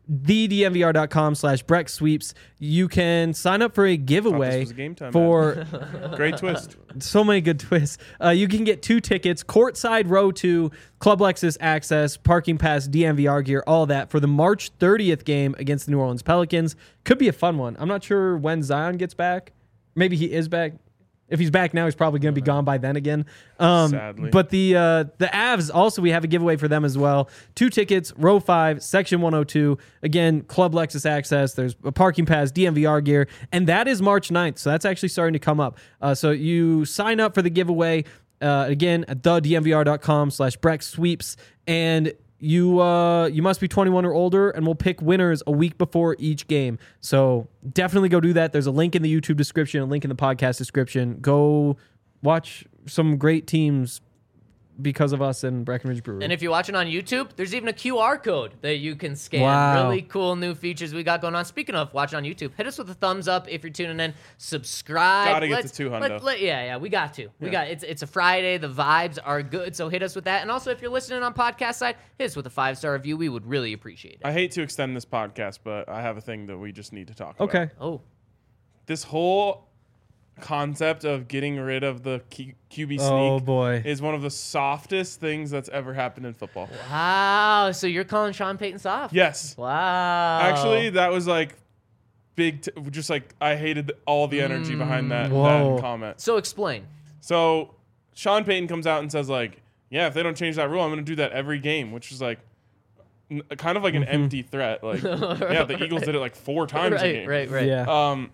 the D M V R dot com slash Breck Sweeps. You can sign up for a giveaway was game time, for Great twist. so many good twists. Uh, you can get two tickets, courtside row two, Club Lexus access, parking pass, D M V R gear, all that for the March thirtieth game against the New Orleans Pelicans. Could be a fun one. I'm not sure when Zion gets back. Maybe he is back. If he's back now, he's probably going to be gone by then again. Um, Sadly. But the uh, the Avs, also, we have a giveaway for them as well. Two tickets, row five, section one oh two. Again, Club Lexus access. There's a parking pass, D M V R gear. And that is March ninth. So that's actually starting to come up. Uh, so you sign up for the giveaway, uh, again, at the D M V R dot com slash Breck Sweeps. And you uh, you must be twenty-one or older, and we'll pick winners a week before each game. So definitely go do that. There's a link in the YouTube description, a link in the podcast description. Go watch some great teams because of us and Breckenridge Brewery. And if you're watching on YouTube, there's even a Q R code that you can scan. Wow. Really cool new features we got going on. Speaking of watching on YouTube, hit us with a thumbs up if you're tuning in. Subscribe. Gotta get Let's- to two hundo. let- let- yeah, yeah, we got to. We Yeah. got it's it's a Friday. The vibes are good, so hit us with that. And also, if you're listening on podcast side, hit us with a five star review. We would really appreciate it. I hate to extend this podcast, but I have a thing that we just need to talk about. okay. Oh, This whole concept of getting rid of the Q- QB sneak Oh, boy. is one of the softest things that's ever happened in football. wow! So you're calling Sean Payton soft? Yes. Wow. Actually, that was like big, t- just like I hated all the energy behind that, Whoa. that comment. So explain. So Sean Payton comes out and says like, yeah, if they don't change that rule, I'm going to do that every game, which is like n- kind of like an empty threat. Like, yeah, the Eagles did it like four times a Right, game. right, right. Yeah. Um,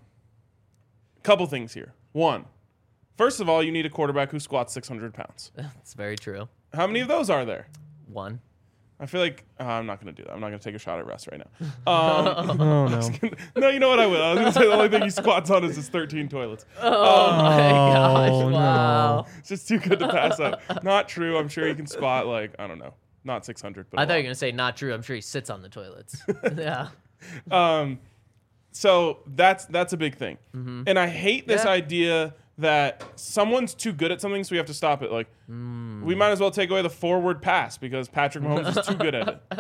couple things here. One, first of all, you need a quarterback who squats six hundred pounds. That's very true. How many of those are there? One. I feel like uh, I'm not going to do that. I'm not going to take a shot at Russ right now. Um, oh, no. no, you know what? I will. I was going to say the only thing he squats on is his thirteen toilets. Oh, my gosh! no. Wow. It's just too good to pass up. Not true. I'm sure he can squat like I don't know, not six hundred. But I a thought you were lot. gonna say not true. I'm sure he sits on the toilets. yeah. Um, so that's that's a big thing, and I hate this Yeah. idea that someone's too good at something, so we have to stop it. Like, we might as well take away the forward pass because Patrick Mahomes is too good at it.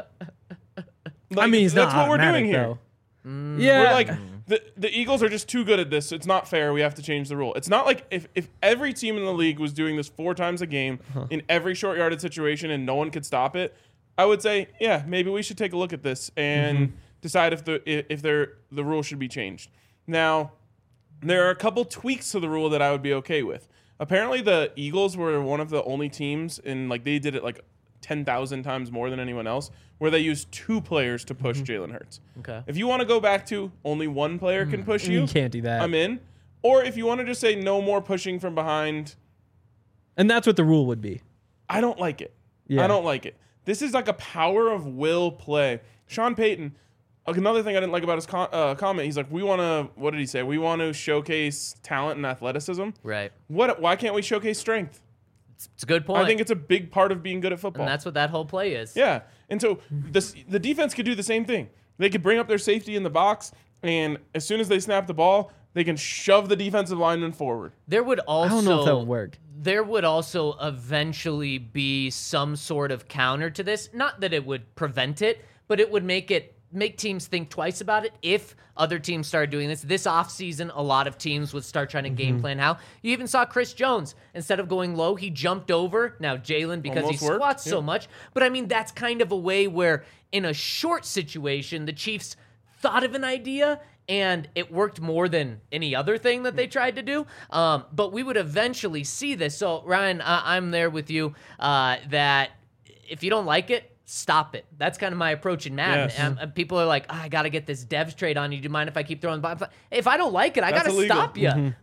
Like, I mean, he's that's not what we're automatic, doing here. though. Yeah. We're like the the Eagles are just too good at this. So it's not fair. We have to change the rule. It's not like if, if every team in the league was doing this four times a game in every short yarded situation and no one could stop it, I would say, yeah, maybe we should take a look at this and Mm-hmm. decide if the if, if there the rule should be changed. Now, there are a couple tweaks to the rule that I would be okay with. Apparently, the Eagles were one of the only teams in like they did it like ten thousand times more than anyone else, where they used two players to push Jalen Hurts. Okay. If you want to go back to only one player can push you, You can't do that. I'm in. Or if you want to just say no more pushing from behind, And that's what the rule would be. I don't like it. Yeah. I don't like it. This is like a power of will play. Sean Payton, another thing I didn't like about his com- uh, comment, he's like, we want to, what did he say? We want to showcase talent and athleticism. Right. What? Why can't we showcase strength? It's a good point. I think it's a big part of being good at football. and that's what that whole play is. Yeah. And so this, the defense could do the same thing. They could bring up their safety in the box, and as soon as they snap the ball, they can shove the defensive lineman forward. There would also I don't know if that would work. There would also eventually be some sort of counter to this. Not that it would prevent it, but it would make it make teams think twice about it if other teams started doing this. This offseason, a lot of teams would start trying to game Mm-hmm. plan how. You even saw Chris Jones. Instead of going low, he jumped over. Now, Jalen, because Almost he worked, squats so yeah. much. But I mean, that's kind of a way where in a short situation, the Chiefs thought of an idea and it worked more than any other thing that they tried to do. Um, but we would eventually see this. So, Ryan, uh, I'm there with you uh, that if you don't like it, stop it. That's kind of my approach in Madden. Yes. And, and people are like, oh, I got to get this devs trade on you. Do you mind if I keep throwing the ball? If I don't like it, I got That's to illegal. stop you.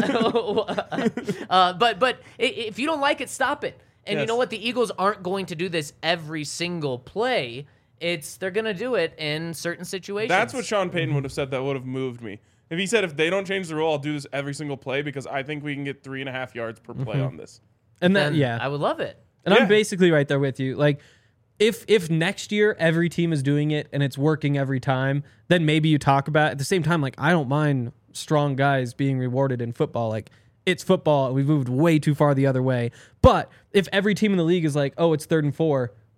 Uh, uh, but but i- if you don't like it, stop it. And you Yes. know what? The Eagles aren't going to do this every single play. It's they're going to do it in certain situations. That's what Sean Payton would have said that would have moved me. If he said, if they don't change the rule, I'll do this every single play because I think we can get three and a half yards per play on this. And that, Then yeah. I would love it. And Yeah. I'm basically right there with you. Like, if if next year every team is doing it and it's working every time, then maybe you talk about it. At the same time, like, I don't mind strong guys being rewarded in football. Like, it's football. We've moved way too far the other way. But if every team in the league is like, oh, it's third and four, we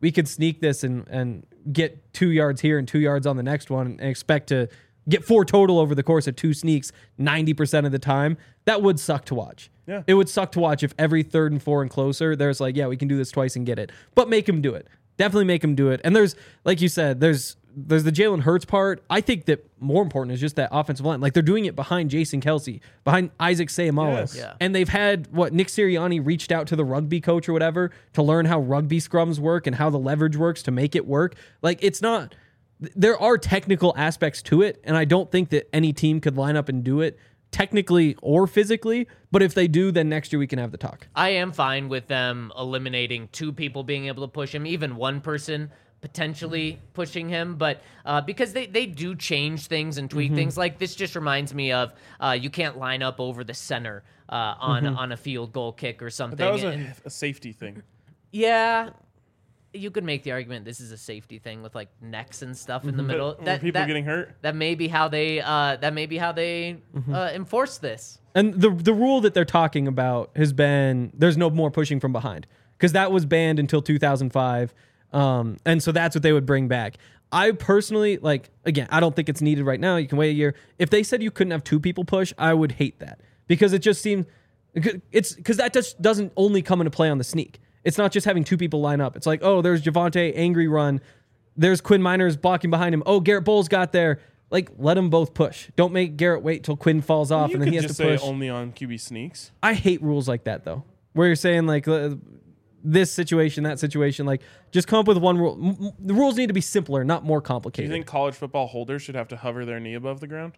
we could sneak this and, and get two yards here and two yards on the next one and expect to get four total over the course of two sneaks ninety percent of the time, that would suck to watch. Yeah. It would suck to watch if every third and four and closer, there's like, yeah, we can do this twice and get it. But make him do it. Definitely make him do it. And there's, like you said, there's there's the Jalen Hurts part. I think that more important is just that offensive line. Like, they're doing it behind Jason Kelce, behind Isaac Seumalo. Yes. Yeah. And they've had, what, Nick Sirianni reached out to the rugby coach or whatever to learn how rugby scrums work and how the leverage works to make it work. Like, it's not... There are technical aspects to it, and I don't think that any team could line up and do it technically or physically, but if they do, then next year we can have the talk. I am fine with them eliminating two people being able to push him, even one person potentially pushing him, but uh, because they, they do change things and tweak Mm-hmm. things. Like, this just reminds me of uh, you can't line up over the center uh, on, Mm-hmm. on a field goal kick or something. That was a, And- a safety thing. yeah. You could make the argument this is a safety thing with like necks and stuff in the middle. Were That, people that, getting hurt? that may be how they uh, that may be how they uh, enforce this. And the the rule that they're talking about has been there's no more pushing from behind because that was banned until two thousand five, um, and so that's what they would bring back. I personally like again, I don't think it's needed right now. You can wait a year. If they said you couldn't have two people push, I would hate that because it just seems it's because that just doesn't only come into play on the sneak. It's not just having two people line up. It's like, oh, there's Javonte, angry run. There's Quinn Miners blocking behind him. Oh, Garrett Bowles got there. Like, let them both push. Don't make Garrett wait till Quinn falls off You and then could he has just to say push. only on Q B sneaks. I hate rules like that, though, where you're saying, like, uh, this situation, that situation. Like, just come up with one rule. M- m- the rules need to be simpler, not more Do you complicated. think college football holders should have to hover their knee above the ground?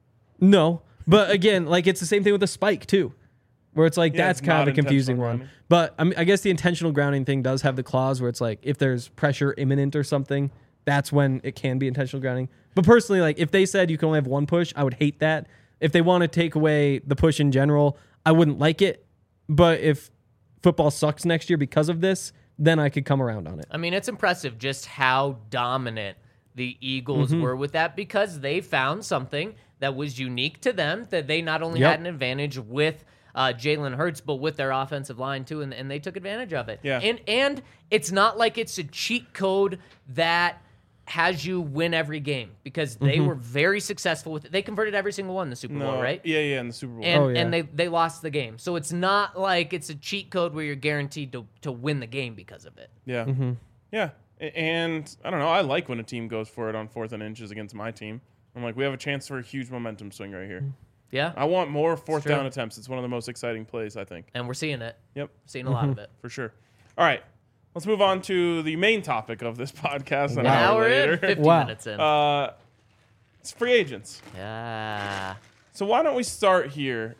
No. But again, like, it's the same thing with the spike, too. Where it's like, Yeah, that's it's kind not of a confusing intentional one. grounding. But I mean, I guess the intentional grounding thing does have the clause where it's like, if there's pressure imminent or something, that's when it can be intentional grounding. But personally, like, if they said you can only have one push, I would hate that. If they want to take away the push in general, I wouldn't like it. But if football sucks next year because of this, then I could come around on it. I mean, it's impressive just how dominant the Eagles Mm-hmm. were with that because they found something that was unique to them, that they not only Yep. had an advantage with uh, Jalen Hurts, but with their offensive line too, and, and they took advantage of it. Yeah. And and it's not like it's a cheat code that has you win every game because they Mm-hmm. were very successful with it. They converted every single one in the Super Bowl, No, right? Yeah, yeah, in the Super Bowl. And, Oh, yeah. and they, they lost the game. So it's not like it's a cheat code where you're guaranteed to, to win the game because of it. Yeah. Mm-hmm. Yeah. A- And I don't know. I like when a team goes for it on fourth and inches against my team. I'm like, we have a chance for a huge momentum swing right here. Yeah. I want more fourth true. down attempts. It's one of the most exciting plays, I think. And we're seeing it. Yep, Seeing a lot of it. for sure. All right. Let's move on to the main topic of this podcast an An hour hour later. in, fifty Wow. minutes in. Uh, it's free agents. yeah. So why don't we start here?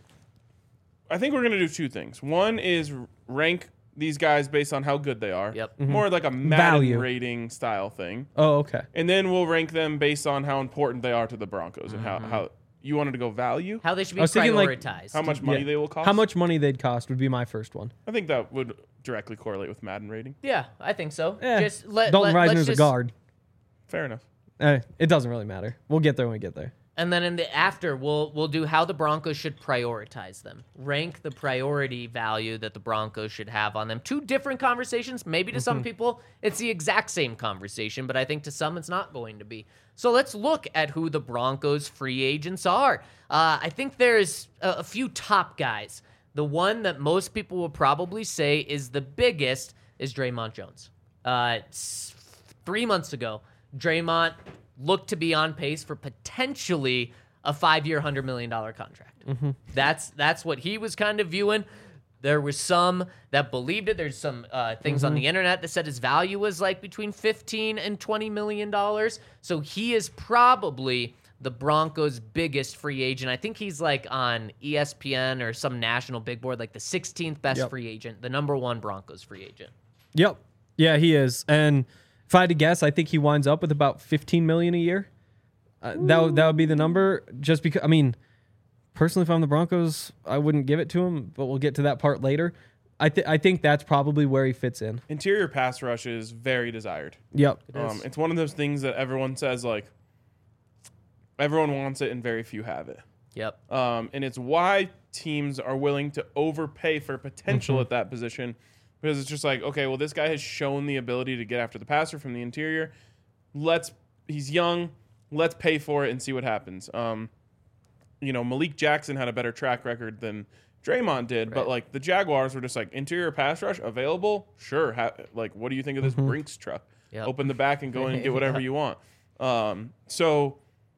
I think we're going to do two things. One is rank these guys based on how good they are. Yep. More like a Madden Value. rating style thing. Oh, okay. And then we'll rank them based on how important they are to the Broncos and how, how you wanted to go value, How they should be I was thinking, like, prioritized. how much money Yeah. they will cost. How much money they'd cost would be my first one. I think that would directly correlate with Madden rating. Yeah, I think so. Eh, Just let, Dalton let, let's Reisner's a just- guard. Fair enough. Eh, it doesn't really matter. We'll get there when we get there. And then in the after, we'll we'll do how the Broncos should prioritize them. Rank the priority value that the Broncos should have on them. Two different conversations. Maybe to some people, it's the exact same conversation, but I think to some, it's not going to be. So let's look at who the Broncos free agents are. Uh, I think there's a, a few top guys. The one that most people will probably say is the biggest is Draymond Jones. Uh, s- three months ago, Draymond looked to be on pace for potentially a five-year, one hundred million dollars contract. Mm-hmm. That's that's what he was kind of viewing. There was some that believed it. There's some uh, things Mm-hmm. on the internet that said his value was like between fifteen and twenty million dollars. So he is probably the Broncos' biggest free agent. I think he's like on E S P N or some national big board, like the sixteenth best Yep. free agent, the number one Broncos free agent. Yep. Yeah, he is. And if I had to guess, I think he winds up with about fifteen million a year. Uh, that would- that would be the number. Just because, I mean, personally, if I'm the Broncos, I wouldn't give it to him. But we'll get to that part later. I th- I think that's probably where he fits in. Interior pass rush is very desired. Yep. Um, it's one of those things that everyone says, like, everyone wants it and very few have it. Yep. Um, and it's why teams are willing to overpay for potential at that position because it's just like, okay, well, this guy has shown the ability to get after the passer from the interior. Let's he's young. Let's pay for it and see what happens. Um, you know, Malik Jackson had a better track record than Draymond did, Right. but like the Jaguars were just like interior pass rush available. Sure, ha- like what do you think of this Mm-hmm. Brinks truck? Yep. Open the back and go in and get whatever you want. Um, so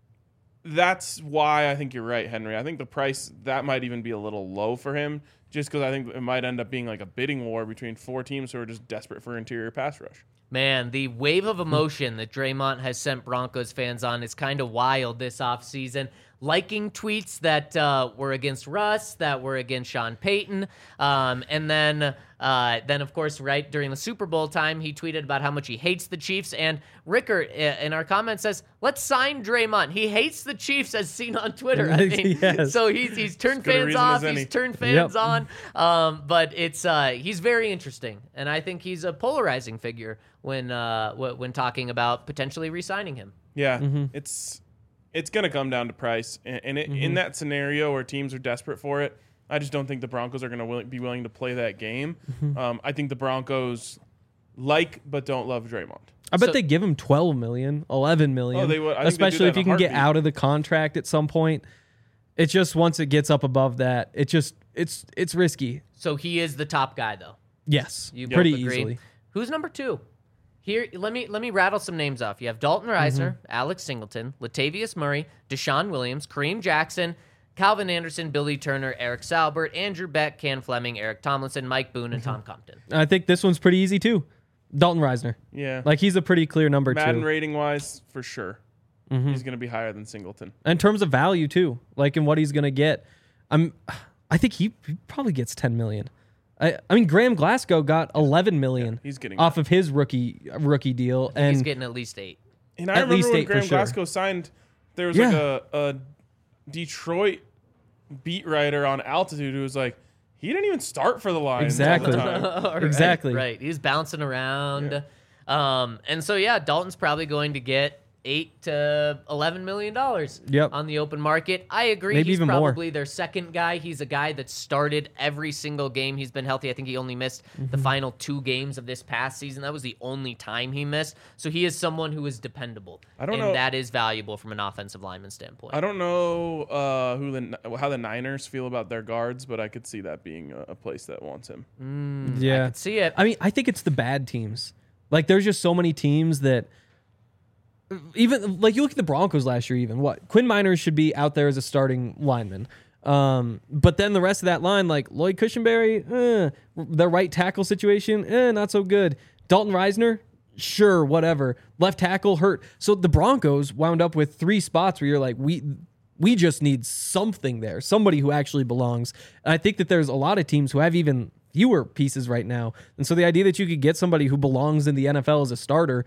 that's why I think you're right, Henry. I think the price that might even be a little low for him, just because I think it might end up being like a bidding war between four teams who are just desperate for interior pass rush. Man, the wave of emotion that Draymond has sent Broncos fans on is kind of wild this offseason. Liking tweets that uh, were against Russ, that were against Sean Payton. Um, and then, uh, then, of course, right during the Super Bowl time, he tweeted about how much he hates the Chiefs. And Rickert uh, in our comments says, let's sign Draymond. He hates the Chiefs as seen on Twitter. I mean, Yes. So he's, he's turned good a fans reason off. as any. He's turned fans Yep. on. Um, but it's uh, he's very interesting. And I think he's a polarizing figure when uh, w- when talking about potentially re-signing him. Yeah, Mm-hmm. it's it's going to come down to price, and, and it, in that scenario where teams are desperate for it, I just don't think the Broncos are going to will- be willing to play that game. Mm-hmm. Um, I think the Broncos like but don't love Draymond. I bet So- they give him twelve million, eleven million. Oh, they would. I think they'd do Especially that if in you a can get heartbeat. out of the contract at some point. It's just once it gets up above that, it just it's it's risky. So he is the top guy, though. Yes, You pretty both agree? easily. Who's number two? Here, let me let me rattle some names off. You have Dalton Reisner, Mm-hmm. Alex Singleton, Latavius Murray, Deshaun Williams, Kareem Jackson, Calvin Anderson, Billy Turner, Eric Salbert, Andrew Beck, Ken Fleming, Eric Tomlinson, Mike Boone, and Mm-hmm. Tom Compton. I think this one's pretty easy too. Dalton Reisner, Yeah, like he's a pretty clear number Madden two rating wise, for sure, Mm-hmm. he's going to be higher than Singleton. in terms of value too. Like in what he's gonna get. I'm, I think he, he probably gets ten million. I, I mean, Graham Glasgow got eleven million Yeah, he's getting off of his rookie rookie deal, and He's getting at least eight. And I At remember least when eight for Graham sure. Glasgow signed, there was Yeah. like a, a Detroit beat writer on Altitude who was like, he didn't even start for the Lions all the Exactly. time. Right, Exactly. Right. He's bouncing around. Um, and so, yeah, Dalton's probably going to get eight to eleven million dollars Yep. on the open market. I agree. Maybe He's even more. probably their second guy. He's a guy that started every single game. He's been healthy. I think he only missed Mm-hmm. the final two games of this past season. That was the only time he missed. So he is someone who is dependable. I don't and know- that is valuable from an offensive lineman standpoint. I don't know uh, who the how the Niners feel about their guards, but I could see that being a, a place that wants him. yeah, I could see it. I mean, I think it's the bad teams. Like, there's just so many teams that, even like you look at the Broncos last year. Even what Quinn Miners should be out there as a starting lineman. Um, but then the rest of that line, like Lloyd Cushenberry, eh, the right tackle situation, eh, not so good. Dalton Reisner, sure, whatever. Left tackle hurt. So the Broncos wound up with three spots where you're like, we we just need something there, somebody who actually belongs. And I think that there's a lot of teams who have even fewer pieces right now. And so the idea that you could get somebody who belongs in the N F L as a starter,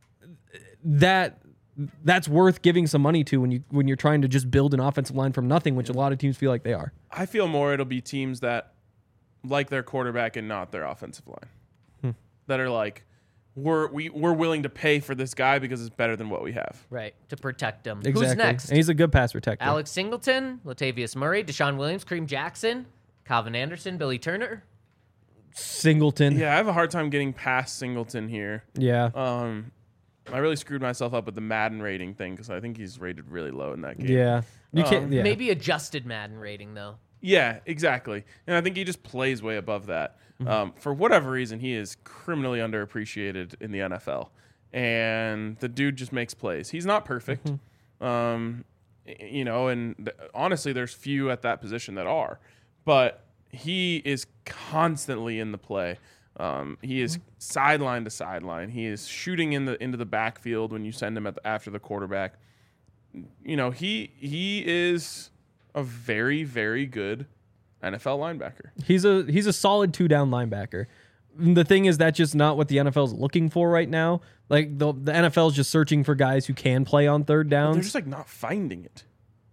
that that's worth giving some money to when you when you're trying to just build an offensive line from nothing, which a lot of teams feel like they are. I feel more it'll be teams that like their quarterback and not their offensive line. Hmm. That are like, we're we, we're willing to pay for this guy because it's better than what we have. Right. To protect him. Exactly. Who's next? And he's a good pass protector. Alex Singleton, Latavius Murray, Deshaun Williams, Kareem Jackson, Calvin Anderson, Billy Turner. Singleton. Yeah, I have a hard time getting past Singleton here. Yeah. Um, I really screwed myself up with the Madden rating thing because I think he's rated really low in that game. Yeah. You can't. Um, Yeah. Maybe adjusted Madden rating, though. Yeah, exactly. And I think he just plays way above that. Mm-hmm. Um, for whatever reason, he is criminally underappreciated in the N F L. And the dude just makes plays. He's not perfect. Mm-hmm. Um, y- you know, and th- honestly, there's few at that position that are. But he is constantly in the play. Um, he is sideline to sideline. He is shooting in the into the backfield when you send him at the, after the quarterback. You know, he he is a very, very good N F L linebacker. He's a he's a solid two down linebacker. The thing is, that's just not what the N F L is looking for right now. Like the the N F L is just searching for guys who can play on third They're downs. just like not finding it.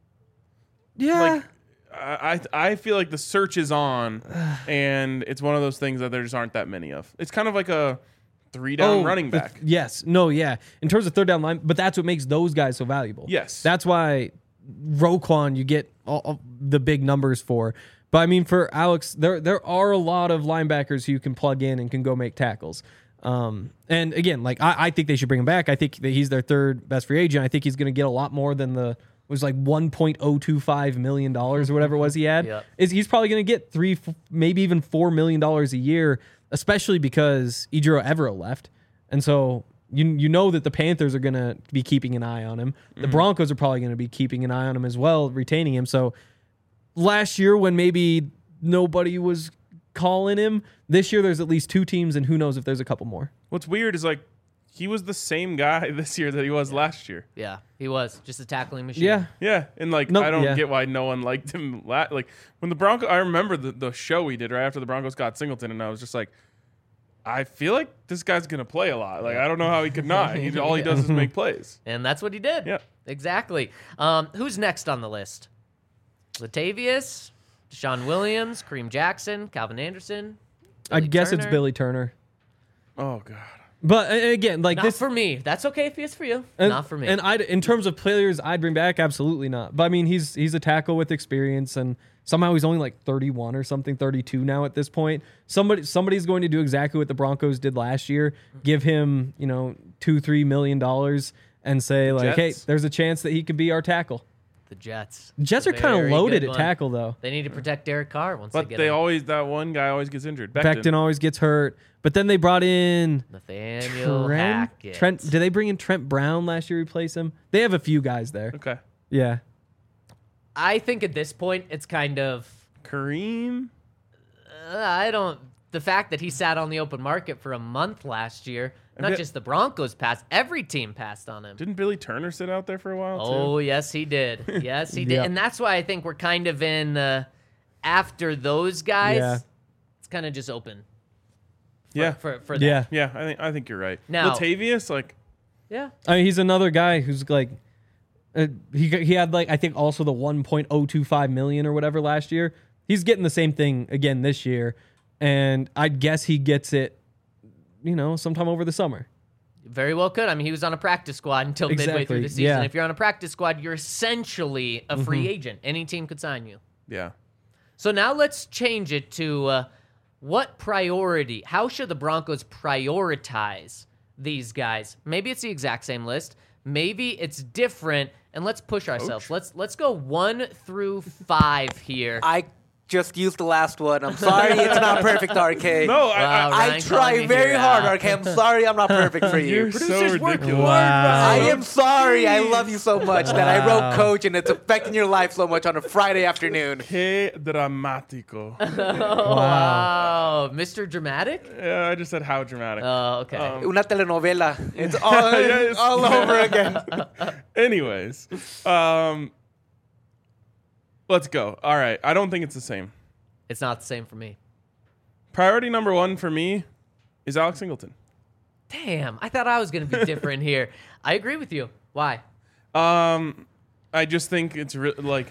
yeah. Like I I I feel like the search is on, and it's one of those things that there just aren't that many of. It's kind of like a three down running the- back. yes. No. Yeah. In terms of third down line, but that's what makes those guys so valuable. Yes. That's why Roquan you get all, all the big numbers for. But I mean, for Alex, there there are a lot of linebackers who you can plug in and can go make tackles. Um, and again, like I, I think they should bring him back. I think that he's their third best free agent. I think he's going to get a lot more than the was like one point oh two five million dollars or whatever it was he had. Yep. Is he's probably going to get three, maybe even four million dollars a year, especially because Ejiro Evero left, and so you you know that the Panthers are going to be keeping an eye on him. The mm-hmm. Broncos are probably going to be keeping an eye on him as well, retaining him. So last year when maybe nobody was calling him, this year there's at least two teams, and who knows if there's a couple more. What's weird is like he was the same guy this year that he was yeah. last year. Yeah, he was just a tackling machine. Yeah, yeah, and like nope, I don't yeah. get why no one liked him. La- like when the Broncos, I remember the, the show we did right after the Broncos got Singleton, and I was just like, I feel like this guy's gonna play a lot. Like I don't know how he could not. He, all he does is make plays, and that's what he did. Yeah, exactly. Um, who's next on the list? Latavius, Deshaun Williams, Kareem Jackson, Calvin Anderson. I guess Turner. it's Billy Turner. Oh God. But and again, like not this for me. That's okay if it's for you. and, not for me. And I, in terms of players, I'd bring back absolutely not. But I mean, he's he's a tackle with experience, and somehow he's only like thirty-one or something, thirty-two now at this point. Somebody somebody's going to do exactly what the Broncos did last year: give him, you know, two, three million dollars, and say like, Jets. hey, there's a chance that he could be our tackle. the Jets. Jets are kind of Very loaded good at one. tackle though. They need to protect Derek Carr once But they get they him. always that one guy always gets injured. Becton. Becton always gets hurt, but then they brought in Nathaniel Trent. Hackett. Trent. Did they bring in Trent Brown last year? Replace him? They have a few guys there. Okay. Yeah. I think at this point it's kind of Kareem. uh, I don't. The fact that he sat on the open market for a month last year, not bit- just the Broncos passed, every team passed on him. Didn't Billy Turner sit out there for a while too? Oh, yes, he did. Yes, he did. Yep. And that's why I think we're kind of in uh, after those guys. Yeah. It's kind of just open. For, Yeah. For for that. Yeah. Yeah, I think I think you're right. Now- Latavius, like Yeah. I mean, he's another guy who's like, uh, he he had like I think also the one point oh two five million or whatever last year. He's getting the same thing again this year, and I guess he gets it, you know, sometime over the summer. Very well could. I mean, he was on a practice squad until midway Exactly, through the season. yeah. If you're on a practice squad, you're essentially a free agent. Any team could sign you. yeah. So now let's change it to uh, what priority? How should the Broncos prioritize these guys? Maybe it's the exact same list. Maybe it's different. And let's push ourselves. Let's let's go one through five here. I just used the last one. I'm sorry it's not perfect, R K. No, I, Wow, I, I Ryan calling try you very here hard, out. R K. I'm sorry I'm not perfect for you. you're so Producers work ridiculous. Wow. I am sorry. I love you so much that I wrote coach and it's affecting your life so much on a Friday afternoon. Que dramatico. Oh, wow. Mister Dramatic? Yeah, I just said how dramatic. Oh, okay. Um, Una telenovela. It's all, Yes. all over again. Anyways, um, let's go. All right, I don't think it's the same. It's not the same for me. Priority number one for me is Alex Singleton. Damn, I thought I was going to be different here. I agree with you. Why? Um, I just think it's re- like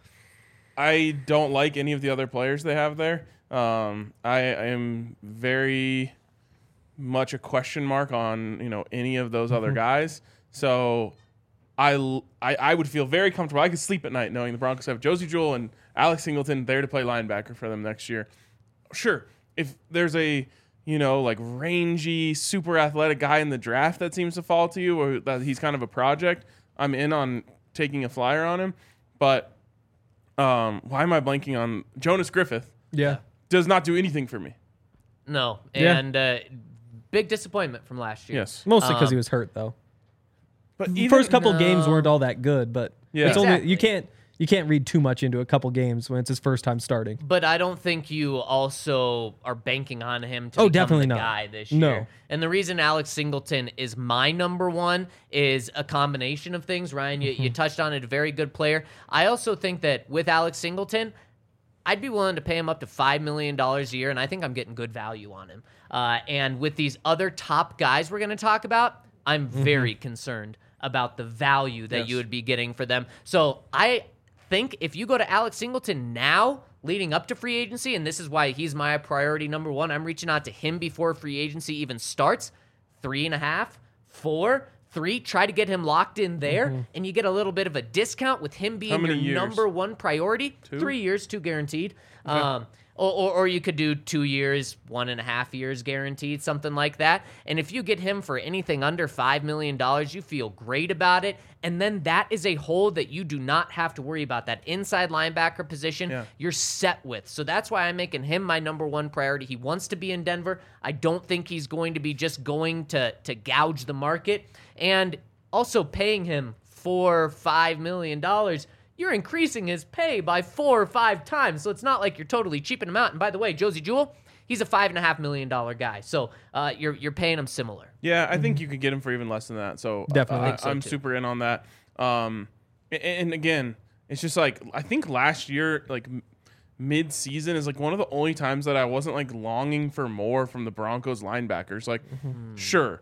I don't like any of the other players they have there. Um, I, I am very much a question mark on you know any of those other guys. So I, l- I I would feel very comfortable. I could sleep at night knowing the Broncos have Josie Jewell and Alex Singleton there to play linebacker for them next year. Sure, if there's a you know like rangy, super athletic guy in the draft that seems to fall to you, or that he's kind of a project, I'm in on taking a flyer on him. But um, why am I blanking on Jonas Griffith? Yeah. Does not do anything for me. No. Yeah. And uh, big disappointment from last year. Yes, Mostly because Um, he was hurt though. but The even, first couple No. games weren't all that good, but Yeah. it's only Exactly. you can't you can't read too much into a couple games when it's his first time starting. But I don't think you also are banking on him to Oh, become definitely the not. guy this No. year. And the reason Alex Singleton is my number one is a combination of things. Ryan, you, you touched on it, a very good player. I also think that with Alex Singleton, I'd be willing to pay him up to five million dollars a year, and I think I'm getting good value on him. Uh, and with these other top guys we're going to talk about, I'm very concerned about the value that Yes. you would be getting for them. So I think if you go to Alex Singleton now, leading up to free agency, and this is why he's my priority number one, I'm reaching out to him before free agency even starts, three and a half, four, three, try to get him locked in there, mm-hmm. and you get a little bit of a discount with him being your years? number one priority. Two? Three years, two guaranteed. Okay. Um, or, or, or you could do two years, one and a half years guaranteed, something like that. And if you get him for anything under five million dollars, you feel great about it. And then that is a hole that you do not have to worry about. That inside linebacker position, yeah. you're set with. So that's why I'm making him my number one priority. He wants to be in Denver. I don't think he's going to be just going to, to gouge the market. And also paying him four, five million dollars, you're increasing his pay by four or five times. So it's not like you're totally cheaping him out. And by the way, Josie Jewell, he's a five and a half million dollar guy. So uh, you're you're paying him similar. Yeah, I think you could get him for even less than that. So definitely, uh, think so I'm too. super in on that. Um, and, and again, it's just like I think last year, like mid season, is like one of the only times that I wasn't like longing for more from the Broncos linebackers. Like, mm-hmm. sure.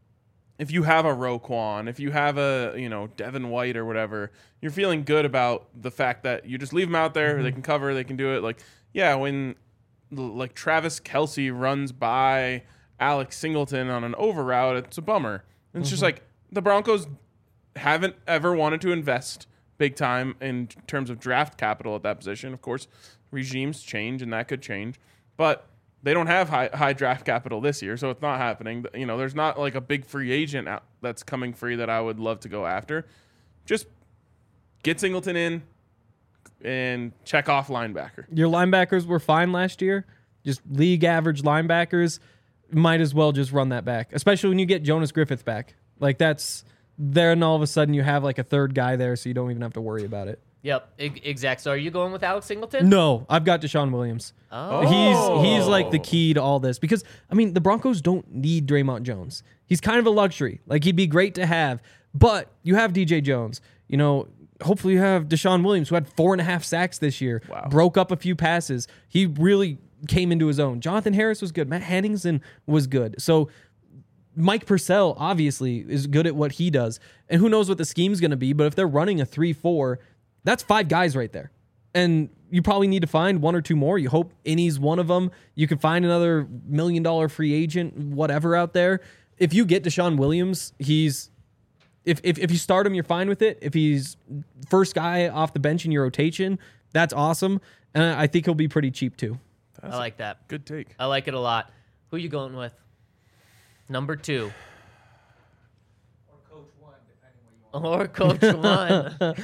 If you have a Roquan, if you have a, you know, Devin White or whatever, you're feeling good about the fact that you just leave them out there. Mm-hmm. They can cover. They can do it. Like, yeah, when like Travis Kelce runs by Alex Singleton on an over route, it's a bummer. It's mm-hmm. just like the Broncos haven't ever wanted to invest big time in terms of draft capital at that position. Of course, regimes change and that could change. But they don't have high high draft capital this year, so it's not happening. You know, there's not like a big free agent out that's coming free that I would love to go after. Just get Singleton in and check off linebacker. Your linebackers were fine last year. Just league average linebackers. Might as well just run that back, especially when you get Jonas Griffith back. Like that's there, and all of a sudden you have like a third guy there, so you don't even have to worry about it. Yep, exact. So are you going with Alex Singleton? No, I've got Deshaun Williams. Oh. He's he's like the key to all this because, I mean, the Broncos don't need Draymond Jones. He's kind of a luxury. Like, he'd be great to have, but you have D J Jones. You know, hopefully you have Deshaun Williams, who had four and a half sacks this year, wow. broke up a few passes. He really came into his own. Jonathan Harris was good. Matt Henningsen was good. So Mike Purcell, obviously, is good at what he does. And who knows what the scheme's going to be, but if they're running a three four, that's five guys right there. And you probably need to find one or two more. You hope Innie's one of them. You could find another million dollar free agent, whatever out there. If you get Deshaun Williams, he's if, if if you start him, you're fine with it. If he's first guy off the bench in your rotation, that's awesome. And I think he'll be pretty cheap too. That's I like that. Good take. I like it a lot. Who you going with? Number two. Or Coach One, depending what you want. Or Coach One.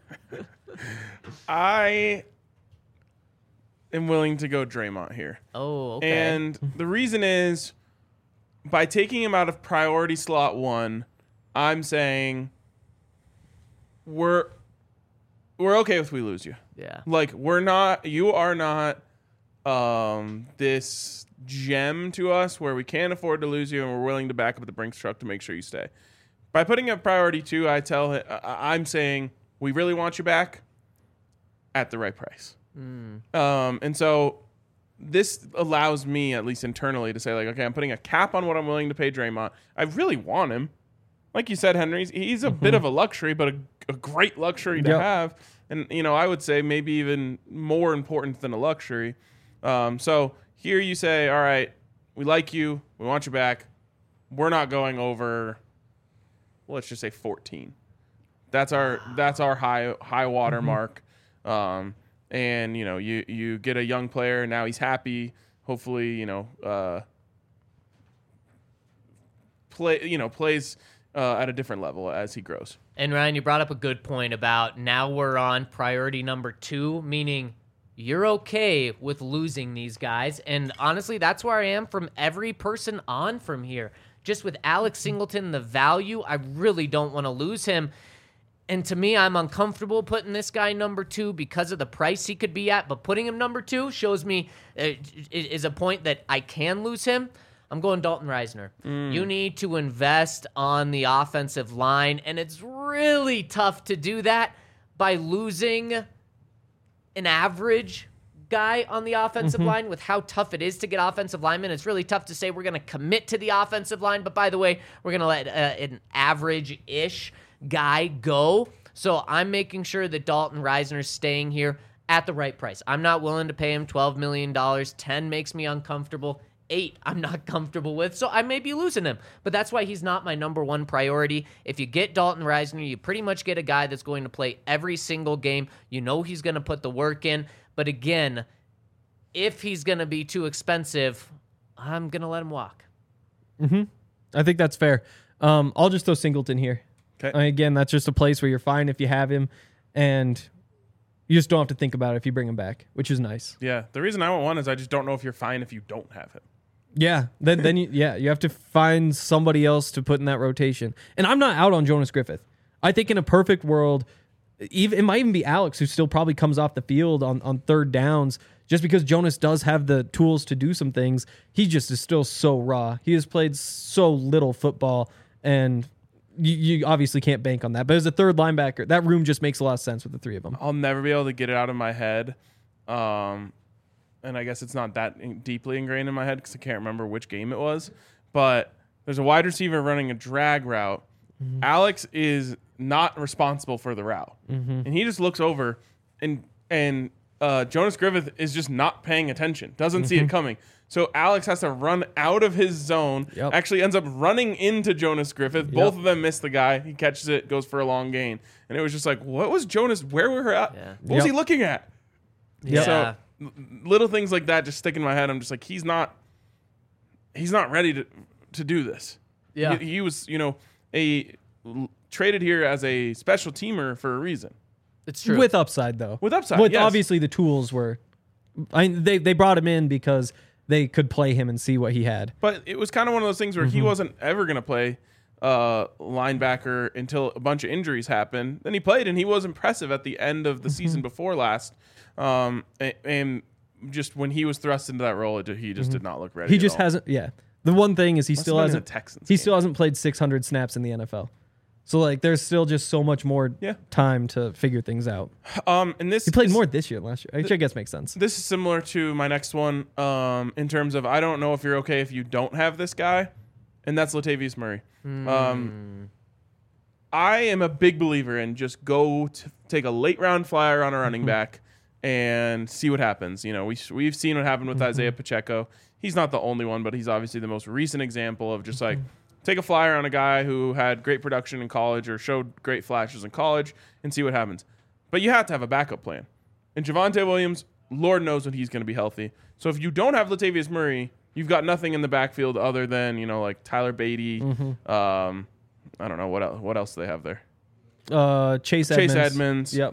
I am willing to go Draymond here. Oh, okay. And the reason is, by taking him out of priority slot one, I'm saying we're we're okay if we lose you. Yeah. Like, we're not, you are not um, this gem to us where we can't afford to lose you and we're willing to back up the Brinks truck to make sure you stay. By putting up priority two, I tell him, I'm saying we really want you back at the right price. Mm. Um, and so this allows me, at least internally, to say, like, okay, I'm putting a cap on what I'm willing to pay Draymond. I really want him. Like you said, Henry, he's a mm-hmm. bit of a luxury, but a, a great luxury to yep. have. And, you know, I would say maybe even more important than a luxury. Um, so here you say, all right, we like you. We want you back. We're not going over, well, let's just say fourteen. That's our that's our high high water mm-hmm. mark. Um, and, you know, you, you get a young player. Now he's happy. Hopefully, you know, uh, play you know plays uh, at a different level as he grows. And Ryan, you brought up a good point about now we're on priority number two, meaning you're okay with losing these guys. And honestly, that's where I am from every person on from here. Just with Alex Singleton, the value, I really don't want to lose him. And to me, I'm uncomfortable putting this guy number two because of the price he could be at. But putting him number two shows me uh, is a point that I can lose him. I'm going Dalton Reisner. Mm. You need to invest on the offensive line, and it's really tough to do that by losing an average guy on the offensive mm-hmm. line with how tough it is to get offensive linemen. It's really tough to say we're going to commit to the offensive line, but by the way, we're going to let uh, an average-ish guy go. So I'm making sure that Dalton Reisner's staying here at the right price. I'm not willing to pay him twelve million dollars. ten makes me uncomfortable. eight I'm not comfortable with, so I may be losing him. But that's why he's not my number one priority. If you get Dalton Risner, you pretty much get a guy that's going to play every single game. You know he's going to put the work in. But again, if he's going to be too expensive, I'm going to let him walk. Mm-hmm. I think that's fair. Um, I'll just throw Singleton here. Okay. Uh, again, that's just a place where you're fine if you have him, and you just don't have to think about it if you bring him back, which is nice. Yeah. The reason I want one is I just don't know if you're fine if you don't have him. Yeah. Then then you yeah you have to find somebody else to put in that rotation. And I'm not out on Jonas Griffith. I think in a perfect world, even it might even be Alex who still probably comes off the field on, on third downs. Just because Jonas does have the tools to do some things, he just is still so raw. He has played so little football, and you, you obviously can't bank on that. But as a third linebacker, that room just makes a lot of sense with the three of them. I'll never be able to get it out of my head. Um, and I guess it's not that in- deeply ingrained in my head because I can't remember which game it was. But there's a wide receiver running a drag route. Mm-hmm. Alex is not responsible for the route. Mm-hmm. And he just looks over, and and uh, Jonas Griffith is just not paying attention, doesn't mm-hmm. see it coming. So Alex has to run out of his zone, yep. actually ends up running into Jonas Griffith. Yep. Both of them miss the guy. He catches it, goes for a long gain. And it was just like, what was Jonas, where were at? Yeah. What was yep. he looking at? Yeah. So little things like that just stick in my head. I'm just like, he's not, he's not ready to to do this. Yeah. He, he was, you know, a traded here as a special teamer for a reason. It's true. With upside, though. With upside, With yes. obviously the tools were, I they they brought him in because they could play him and see what he had. But it was kind of one of those things where Mm-hmm. he wasn't ever going to play uh, linebacker until a bunch of injuries happened. Then he played, and he was impressive at the end of the Mm-hmm. season before last. Um, and, and just when he was thrust into that role, it, he just did not look ready. Mm-hmm. He at just all. hasn't. Yeah. The one thing is he Must still have been in hasn't. the Texans He game. still hasn't played six hundred snaps in the N F L. So like, there's still just so much more Yeah. time to figure things out. Um, and this He played this- more this year than last year, which I guess makes sense. This is similar to my next one um, in terms of I don't know if you're okay if you don't have this guy, and that's Latavius Murray. Mm. Um, I am a big believer in just go to take a late round flyer on a running back and see what happens. You know, we we've seen what happened with Isaiah Pacheco. He's not the only one, but he's obviously the most recent example of just like take a flyer on a guy who had great production in college or showed great flashes in college and see what happens. But you have to have a backup plan. And Javonte Williams, Lord knows when he's going to be healthy. So if you don't have Latavius Murray, you've got nothing in the backfield other than, you know, like Tyler Beatty. Mm-hmm. Um, I don't know what else. What else do they have there? Uh, Chase Edmonds. Chase Edmonds. Yep.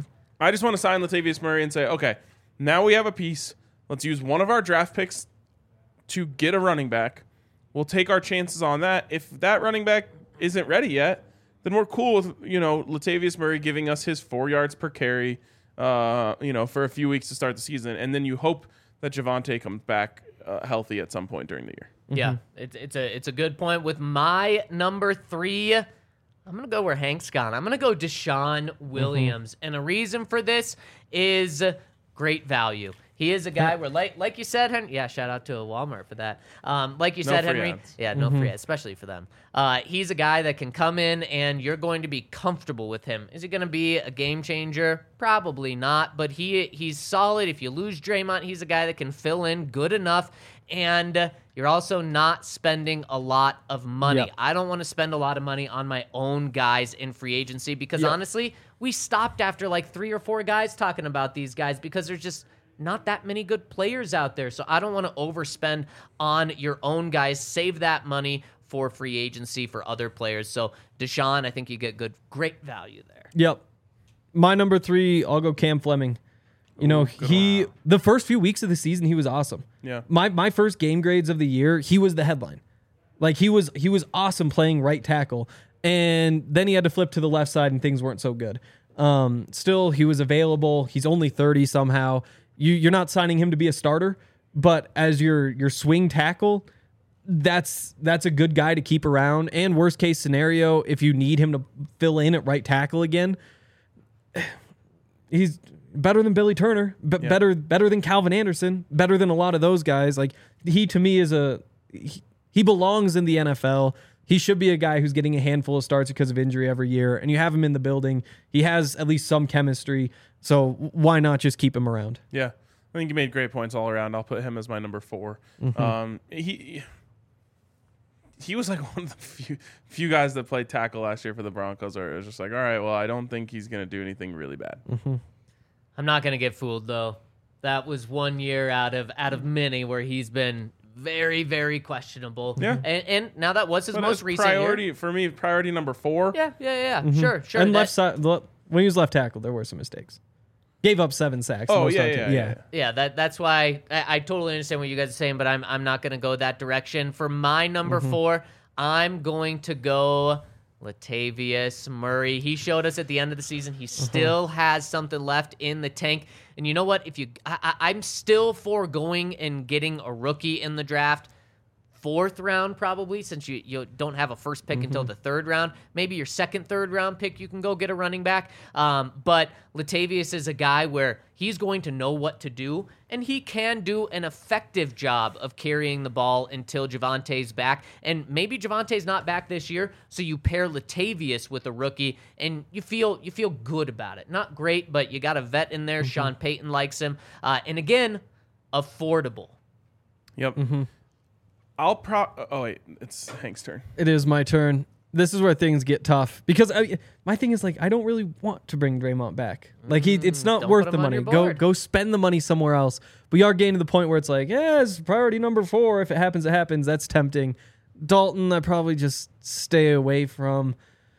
I just want to sign Latavius Murray and say, okay, now we have a piece. Let's use one of our draft picks to get a running back. We'll take our chances on that. If that running back isn't ready yet, then we're cool with, you know, Latavius Murray giving us his four yards per carry, uh, you know, for a few weeks to start the season. And then you hope that Javonte comes back uh, healthy at some point during the year. Yeah, it's it's a it's a good point. With my number three, I'm gonna go where Hank's gone. I'm gonna go Deshaun Williams, and a reason for this is great value. He is a guy where, like like you said, Henry. Yeah, shout out to Walmart for that. Um, like you No said, free Henry. ads. Yeah, no free ads, especially for them. Uh, he's a guy that can come in and you're going to be comfortable with him. Is he going to be a game changer? Probably not, but he he's solid. If you lose Draymond, he's a guy that can fill in good enough, and uh, you're also not spending a lot of money. Yep. I don't want to spend a lot of money on my own guys in free agency because Yep. honestly, we stopped after like three or four guys talking about these guys because there's just not that many good players out there. So I don't want to overspend on your own guys. Save that money for free agency for other players. So Deshaun, I think you get good, great value there. Yep. My number three, I'll go Cam Fleming. You know, he the first few weeks of the season, he was awesome. Yeah. My my first game grades of the year, he was the headline. Like he was he was awesome playing right tackle. And then he had to flip to the left side and things weren't so good. Um, still, he was available. He's only thirty somehow. You you're not signing him to be a starter, but as your your swing tackle, that's that's a good guy to keep around. And worst case scenario, if you need him to fill in at right tackle again, he's better than Billy Turner, but Yeah. better better than Calvin Anderson, better than a lot of those guys. Like he to me is a he, he belongs in the N F L. He should be a guy who's getting a handful of starts because of injury every year, and you have him in the building. He has at least some chemistry, so why not just keep him around? Yeah. I think he made great points all around. I'll put him as my number four. Mm-hmm. Um, he he was like one of the few few guys that played tackle last year for the Broncos. Where it was just like, all right, well, I don't think he's going to do anything really bad. Mm-hmm. I'm not going to get fooled, though. That was one year out of out of many where he's been very, very questionable. Yeah. And, and now that was his But most as recent priority year. for me, priority number four. Yeah, yeah, yeah. Sure, sure. And That- left side, le- when he was left tackle, there were some mistakes. Gave up seven sacks. Oh most yeah, on yeah, team. yeah, yeah. Yeah, that that's why I, I totally understand what you guys are saying, but I'm I'm not going to go that direction. For my number Mm-hmm. four, I'm going to go Latavius Murray. He showed us at the end of the season he Mm-hmm. still has something left in the tank. And you know what? If you, I, I- I'm still for going and getting a rookie in the draft. Fourth round, probably, since you, you don't have a first pick until the third round. Maybe your second, third round pick, you can go get a running back. Um, but Latavius is a guy where he's going to know what to do, and he can do an effective job of carrying the ball until Javante's back. And maybe Javante's not back this year, so you pair Latavius with a rookie, and you feel you feel good about it. Not great, but you got a vet in there. Sean Payton likes him. Uh, and again, affordable. Yep. I'll pro. Oh wait, it's Hank's turn. It is my turn. This is where things get tough because I, my thing is like I don't really want to bring Draymond back. Like he, it's not don't worth put the him on money. your Go board. go spend the money somewhere else. We are getting to the point where it's like, yeah, it's priority number four. If it happens, it happens. That's tempting. Dalton, I probably just stay away from.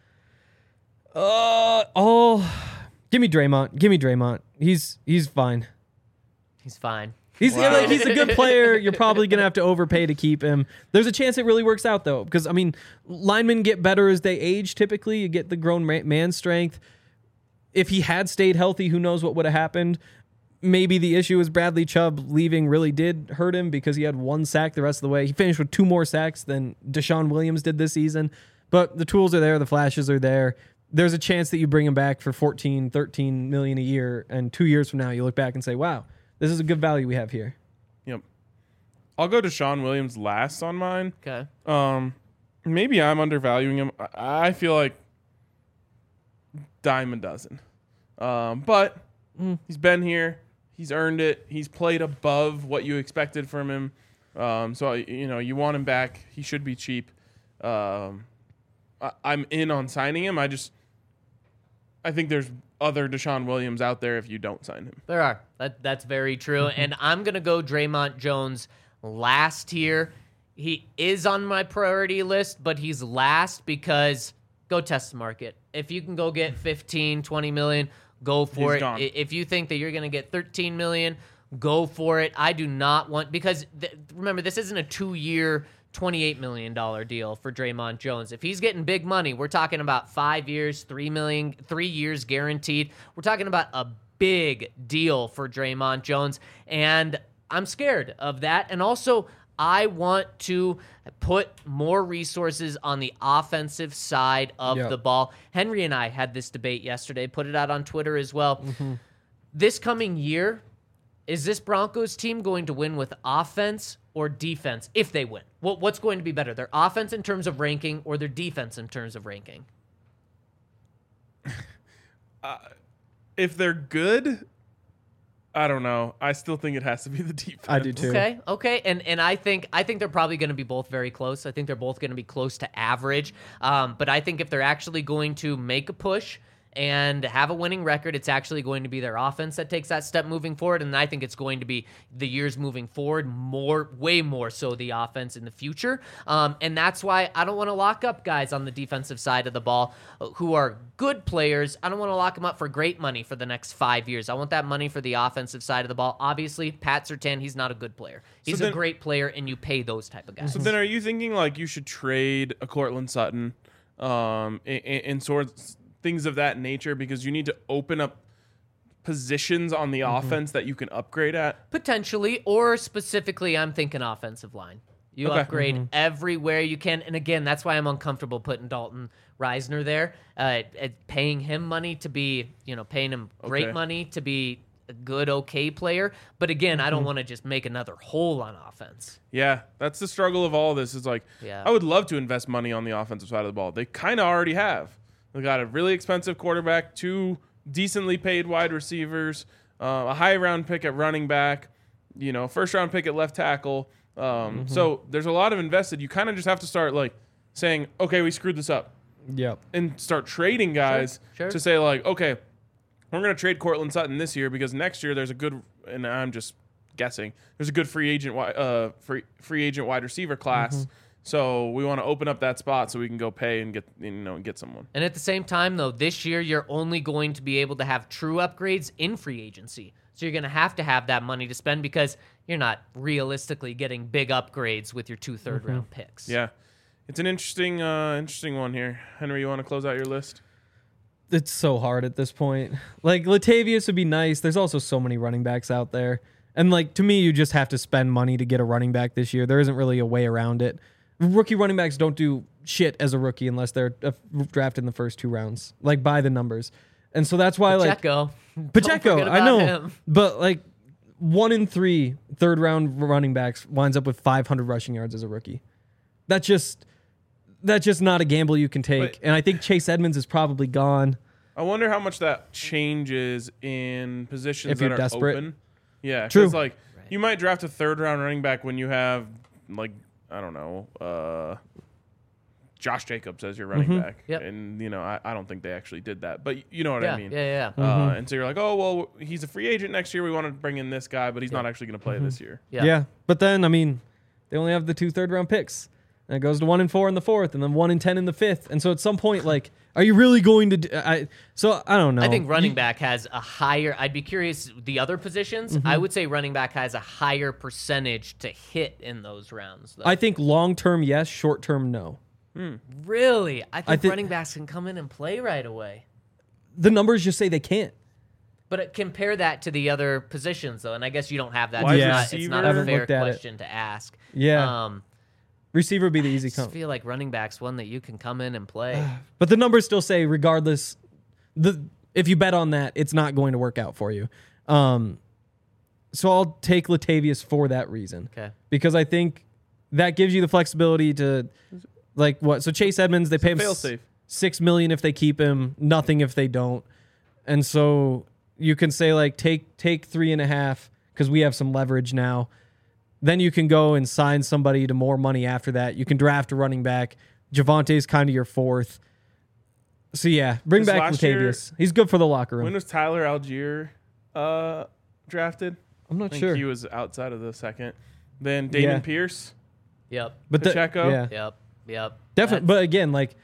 Uh oh, give me Draymond. Give me Draymond. He's he's fine. He's fine. He's Wow. like he's a good player. You're probably gonna have to overpay to keep him. There's a chance it really works out though, because I mean, linemen get better as they age. Typically, you get the grown ma- man strength. If he had stayed healthy, who knows what would have happened? Maybe the issue is Bradley Chubb leaving really did hurt him because he had one sack the rest of the way. He finished with two more sacks than Deshaun Williams did this season. But the tools are there, the flashes are there. There's a chance that you bring him back for fourteen, thirteen million a year, and two years from now you look back and say, "Wow, this is a good value we have here." Yep. I'll go to Sean Williams last on mine. Okay. Um, maybe I'm undervaluing him. I, I feel like dime a dozen. Um, but he's been here. He's earned it. He's played above what you expected from him. Um, so you know you want him back. He should be cheap. Um, I, I'm in on signing him. I just I think there's other Deshaun Williams out there if you don't sign him. There are. That, that's very true. And I'm going to go Draymond Jones last here. He is on my priority list, but he's last because go test the market. If you can go get fifteen, twenty million, go for He's it. gone. I- If you think that you're going to get thirteen million, go for it. I do not want, because th- remember, this isn't a two-year, twenty-eight million dollars deal for Draymond Jones. If he's getting big money, we're talking about five years, three million, three years guaranteed. We're talking about a big deal for Draymond Jones, and I'm scared of that. And also, I want to put more resources on the offensive side of Yep. the ball. Henry and I had this debate yesterday, put it out on Twitter as well. This coming year, is this Broncos team going to win with offense or defense if they win? What, what's going to be better, their offense in terms of ranking or their defense in terms of ranking? If they're good, I don't know. I still think it has to be the defense. I do too. Okay, okay, and and I think I think they're probably going to be both very close. I think they're both going to be close to average. Um, but I think if they're actually going to make a push and have a winning record, it's actually going to be their offense that takes that step moving forward. And I think it's going to be the years moving forward more, way more so the offense in the future. Um, and that's why I don't want to lock up guys on the defensive side of the ball uh, who are good players. I don't want to lock them up for great money for the next five years. I want that money for the offensive side of the ball. Obviously, Pat Surtain, he's not a good player. He's then- a great player, and you pay those type of guys. So then, are you thinking like you should trade a Cortland Sutton, um, and, and sorts things of that nature because you need to open up positions on the offense that you can upgrade at? Potentially, or specifically, I'm thinking offensive line. You Okay. upgrade everywhere you can. And again, that's why I'm uncomfortable putting Dalton Reisner there, uh, at paying him money to be, you know, paying him great Okay. money to be a good, okay player. But again, I don't want to just make another hole on offense. Yeah, that's the struggle of all this. Is like, Yeah. I would love to invest money on the offensive side of the ball. They kind of already have. They got a really expensive quarterback, two decently paid wide receivers, uh, a high round pick at running back, you know, first round pick at left tackle. Um, mm-hmm. So there's a lot of invested. You kind of just have to start like saying, okay, we screwed this up. Yep. And start trading guys Sure, sure. to say like, okay, we're going to trade Cortland Sutton this year because next year there's a good, and I'm just guessing, there's a good free agent, wi- uh, free free agent wide receiver class. Mm-hmm. So we want to open up that spot so we can go pay and get, you know, get someone. And at the same time, though, this year you're only going to be able to have true upgrades in free agency. So you're going to have to have that money to spend because you're not realistically getting big upgrades with your two third Mm-hmm. round picks. Yeah. It's an interesting uh, interesting one here. Henry, you want to close out your list? It's so hard at this point. Like, Latavius would be nice. There's also so many running backs out there. And, like, to me, you just have to spend money to get a running back this year. There isn't really a way around it. Rookie running backs don't do shit as a rookie unless they're uh, drafted in the first two rounds, like by the numbers. And so that's why, Pacheco. like, Pacheco, Don't forget I know. about him. But, like, one in three third round running backs winds up with five hundred rushing yards as a rookie. That's just, that's just not a gamble you can take. But- and I think Chase Edmonds is probably gone. I wonder how much that changes in positions If that you're are desperate. open. Yeah, True. because like you might draft a third round running back when you have like I don't know, uh, Josh Jacobs as your running Mm-hmm. back, Yep. and you know I, I don't think they actually did that, but you know what Yeah, I mean. yeah, yeah. Uh, Mm-hmm. And so you're like, oh well, he's a free agent next year. We want to bring in this guy, but he's not actually going to play this year. Yeah. Yeah. But then, I mean, they only have the two third round picks. And it goes to one and four in the fourth, and then one and ten in the fifth. And so at some point, like, are you really going to? Do, I so I don't know. I think running You- back has a higher. I'd be curious the other positions. Mm-hmm. I would say running back has a higher percentage to hit in those rounds. Though. I think long term, yes. Short term, no. really, I think thi- running backs can come in and play right away. The numbers just say they can't. But uh, compare that to the other positions, though, and I guess you don't have that. Wide It's, not, receiver? it's not I a haven't fair looked at it. question to ask. Yeah. Um, Receiver would be the easy I just come. feel like running back's one that you can come in and play. But the numbers still say, regardless, the if you bet on that, it's not going to work out for you. Um, so I'll take Latavius for that reason. Okay. Because I think that gives you the flexibility to, like, what? So Chase Edmonds, they pay him fail s- safe. six million if they keep him, nothing if they don't, and so you can say like take take three and a half because we have some leverage now. Then you can go and sign somebody to more money after that. You can draft a running back. Javante's kind of your fourth. So yeah, bring This back last year- Latavius. He's good for the locker room. When was Tyler Algier uh, drafted? I'm I not think sure, he was outside of the second. Then Damon Yeah. Pierce. Yep. but the- Pacheco? yeah, Yep. Yep. definitely. But again, like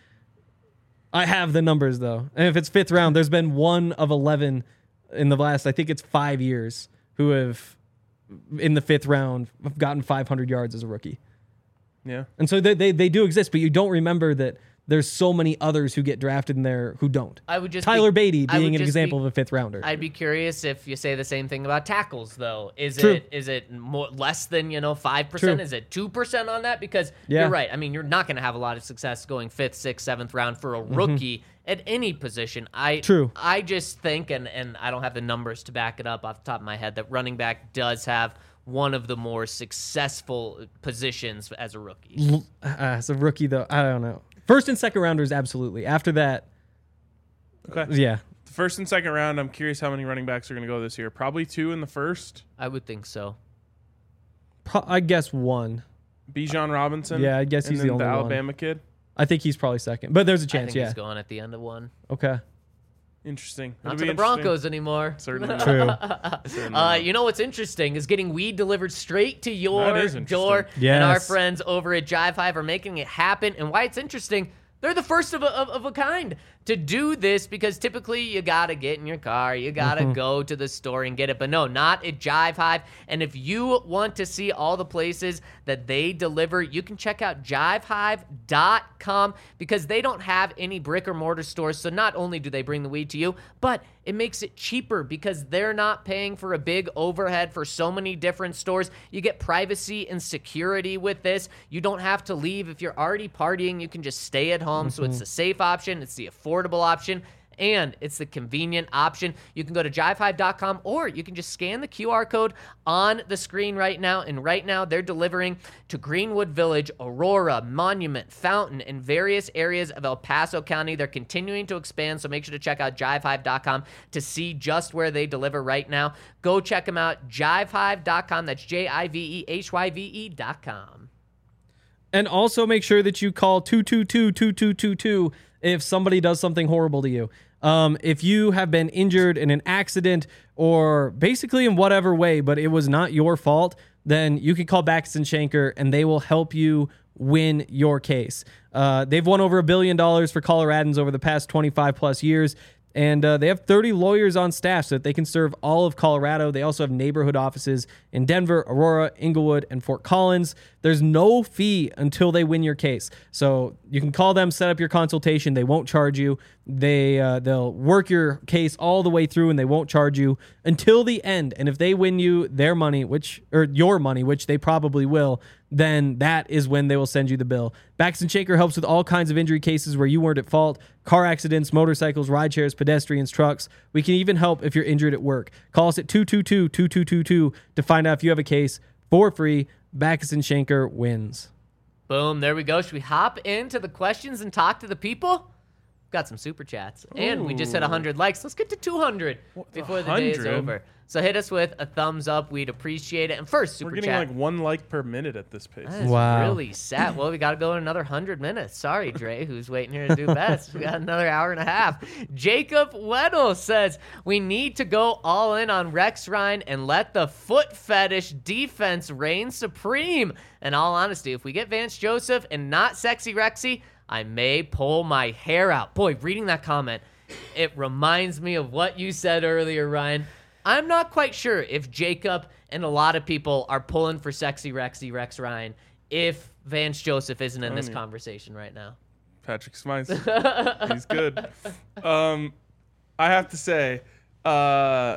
I have the numbers though, and if it's fifth round, there's been one of eleven in the last, I think it's five years, who have in the fifth round have gotten five hundred yards as a rookie. Yeah. And so they, they they do exist, but you don't remember that there's so many others who get drafted in there who don't. I would just Tyler be, Beatty I would being an just example be- of a fifth rounder. I'd be curious if you say the same thing about tackles, though. Is True. it is it more less than you know five percent? True. Is it two percent on that? Because Yeah. you're right. I mean, you're not going to have a lot of success going fifth, sixth, seventh round for a rookie at any position. I Mm-hmm. True. I just think, and and I don't have the numbers to back it up off the top of my head, that running back does have one of the more successful positions as a rookie. L- uh, as a rookie, though, I don't know. First and second rounders, absolutely. After that, Okay. yeah. The first and second round, I'm curious how many running backs are going to go this year. Probably two in the first. I would think so. Pro- I guess one. Bijan Robinson. Yeah, I guess and he's then the only one. Alabama kid. I think he's probably second, but there's a I chance. think Yeah. he's going at the end of one. Okay. Interesting. Not It'll to be the Broncos anymore. Certainly not. True. Certainly Uh, not. you know what's interesting is getting weed delivered straight to your That is interesting. door. And our Yes. friends over at Jive Hive are making it happen. And why it's interesting, they're the first of a, of, of a kind to do this, because typically you got to get in your car, you got to go to the store and get it. But no, not at Jive Hive. And if you want to see all the places that they deliver, you can check out jive hive dot com, because they don't have any brick or mortar stores. So not only do they bring the weed to you, but it makes it cheaper because they're not paying for a big overhead for so many different stores. You get privacy and security with this. You don't have to leave. If you're already partying, you can just stay at home. So it's the safe option. It's the affordable option. and it's the convenient option. You can go to jive hive dot com, or you can just scan the Q R code on the screen right now, and right now they're delivering to Greenwood Village, Aurora, Monument, Fountain, and various areas of El Paso County. They're continuing to expand, so make sure to check out jive hive dot com to see just where they deliver right now. Go check them out, jive hive dot com. That's J I V E H Y V E dot com. And also make sure that you call two two two, two two two two if somebody does something horrible to you. Um, if you have been injured in an accident or basically in whatever way, but it was not your fault, then you can call Backus and Shanker and they will help you win your case. Uh, they've won over a billion dollars for Coloradans over the past twenty-five plus years. And uh, they have thirty lawyers on staff so that they can serve all of Colorado. They also have neighborhood offices in Denver, Aurora, Inglewood, and Fort Collins. There's no fee until they win your case. So you can call them, set up your consultation. They won't charge you. They, uh, they'll work your case all the way through, and they won't charge you until the end. And if they win you their money, which or your money, which they probably will, then that is when they will send you the bill. Backus and Shanker helps with all kinds of injury cases where you weren't at fault. Car accidents, motorcycles, ride shares, pedestrians, trucks. We can even help if you're injured at work. Call us at two two two, two two two two to find out if you have a case for free. Backus and Shanker wins. Boom, there we go. Should we hop into the questions and talk to the people? Got some super chats. And we just hit one hundred likes. Let's get to two hundred before the day is one hundred? over. So hit us with a thumbs up. We'd appreciate it. And first, super We're getting chat. like one like per minute at this pace. That is Wow. really sad. Well, we got to go in another one hundred minutes. Sorry, Dre, who's waiting here to do best. We got another hour and a half. Jacob Weddle says, we need to go all in on Rex Ryan and let the foot fetish defense reign supreme. In all honesty, if we get Vance Joseph and not Sexy Rexy, I may pull my hair out. Boy, reading that comment, it reminds me of what you said earlier, Ryan. I'm not quite sure if Jacob and a lot of people are pulling for Sexy Rexy Rex Ryan if Vance Joseph isn't in this Funny. conversation right now. Patrick Smice. He's good. Um, I have to say, uh,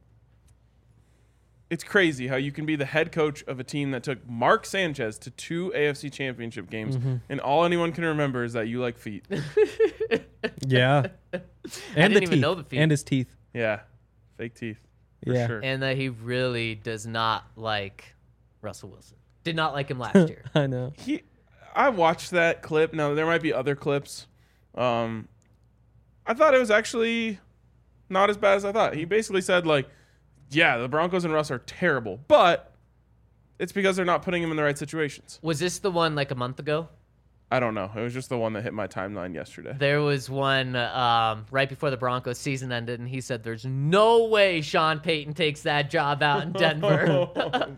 it's crazy how you can be the head coach of a team that took Mark Sanchez to two A F C championship games, Mm-hmm. and all anyone can remember is that you like feet. Yeah. And didn't the even teeth. know the feet. And his teeth. Yeah, fake teeth. For Yeah. sure. And that he really does not like Russell Wilson. Did not like him last year. I know. He, I watched that clip. Now there might be other clips. Um, I thought it was actually not as bad as I thought. He basically said like, "Yeah, the Broncos and Russ are terrible, but it's because they're not putting him in the right situations." Was this the one like a month ago? I don't know. It was just the one that hit my timeline yesterday. There was one um, right before the Broncos season ended, and he said there's no way Sean Payton takes that job out in Denver.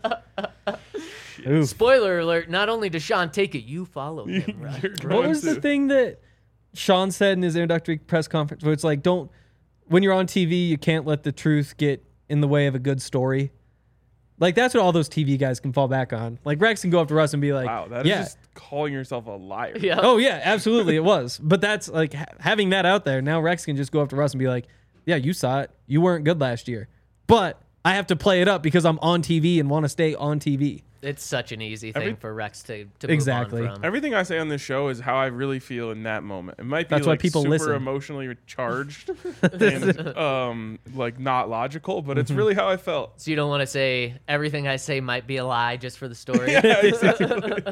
Oof. Spoiler alert, not only does Sean take it, you follow him, right? You're What going was the to. thing that Sean said in his introductory press conference where it's like, don't, when you're on T V, you can't let the truth get in the way of a good story? Like, that's what all those T V guys can fall back on. Like, Rex can go up to Russ and be like, Wow, that is yeah. just calling yourself a liar. Yeah. Oh, yeah, absolutely, it was. But that's, like, ha- having that out there, now Rex can just go up to Russ and be like, yeah, you saw it. You weren't good last year. But I have to play it up because I'm on T V and want to stay on T V. It's such an easy thing Every- for Rex to, to Exactly. move on from. Everything I say on this show is how I really feel in that moment. It might be That's why like people super listen. emotionally charged and um, like not logical, but Mm-hmm. it's really how I felt. So you don't want to say everything I say might be a lie just for the story. Yeah, exactly.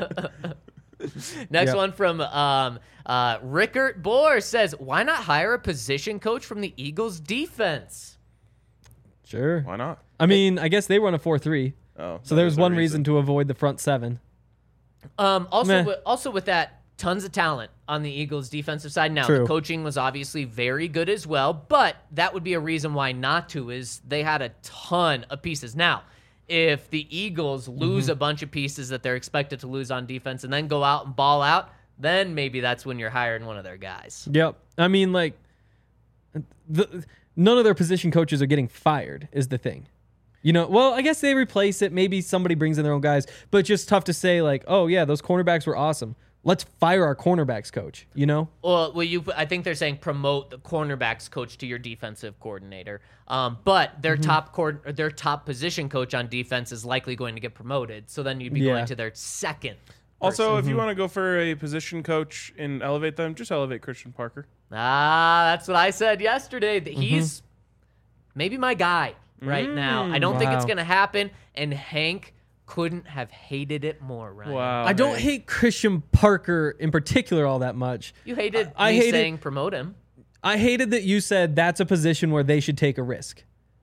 Next Yep. one from um, uh, Rickert Bohr says, why not hire a position coach from the Eagles defense? Sure. Why not? I mean, I guess they run a four three. Oh, So that there's is a one reason to avoid the front seven. Um, also, Meh. with, also with that, tons of talent on the Eagles defensive side. Now, True. the coaching was obviously very good as well, but that would be a reason why not to, is they had a ton of pieces. Now, if the Eagles lose Mm-hmm. a bunch of pieces that they're expected to lose on defense and then go out and ball out, then maybe that's when you're hiring one of their guys. Yep. I mean, like, the, none of their position coaches are getting fired is the thing. You know, well, I guess they replace it. Maybe somebody brings in their own guys, but it's just tough to say, like, oh, yeah, those cornerbacks were awesome. Let's fire our cornerbacks coach, you know? Well, well, you. I think they're saying promote the cornerbacks coach to your defensive coordinator. Um, but their Mm-hmm. top cord, their top position coach on defense is likely going to get promoted. So then you'd be Yeah. going to their second Also, if you want to go for a position coach and elevate them, just elevate Christian Parker. Ah, that's what I said yesterday. That he's maybe my guy right now. I don't think it's Wow. going to happen. And Hank couldn't have hated it more, Ryan. Wow. I don't Hank. hate Christian Parker in particular all that much. You hated I me hated- saying promote him. I hated that you said that's a position where they should take a risk.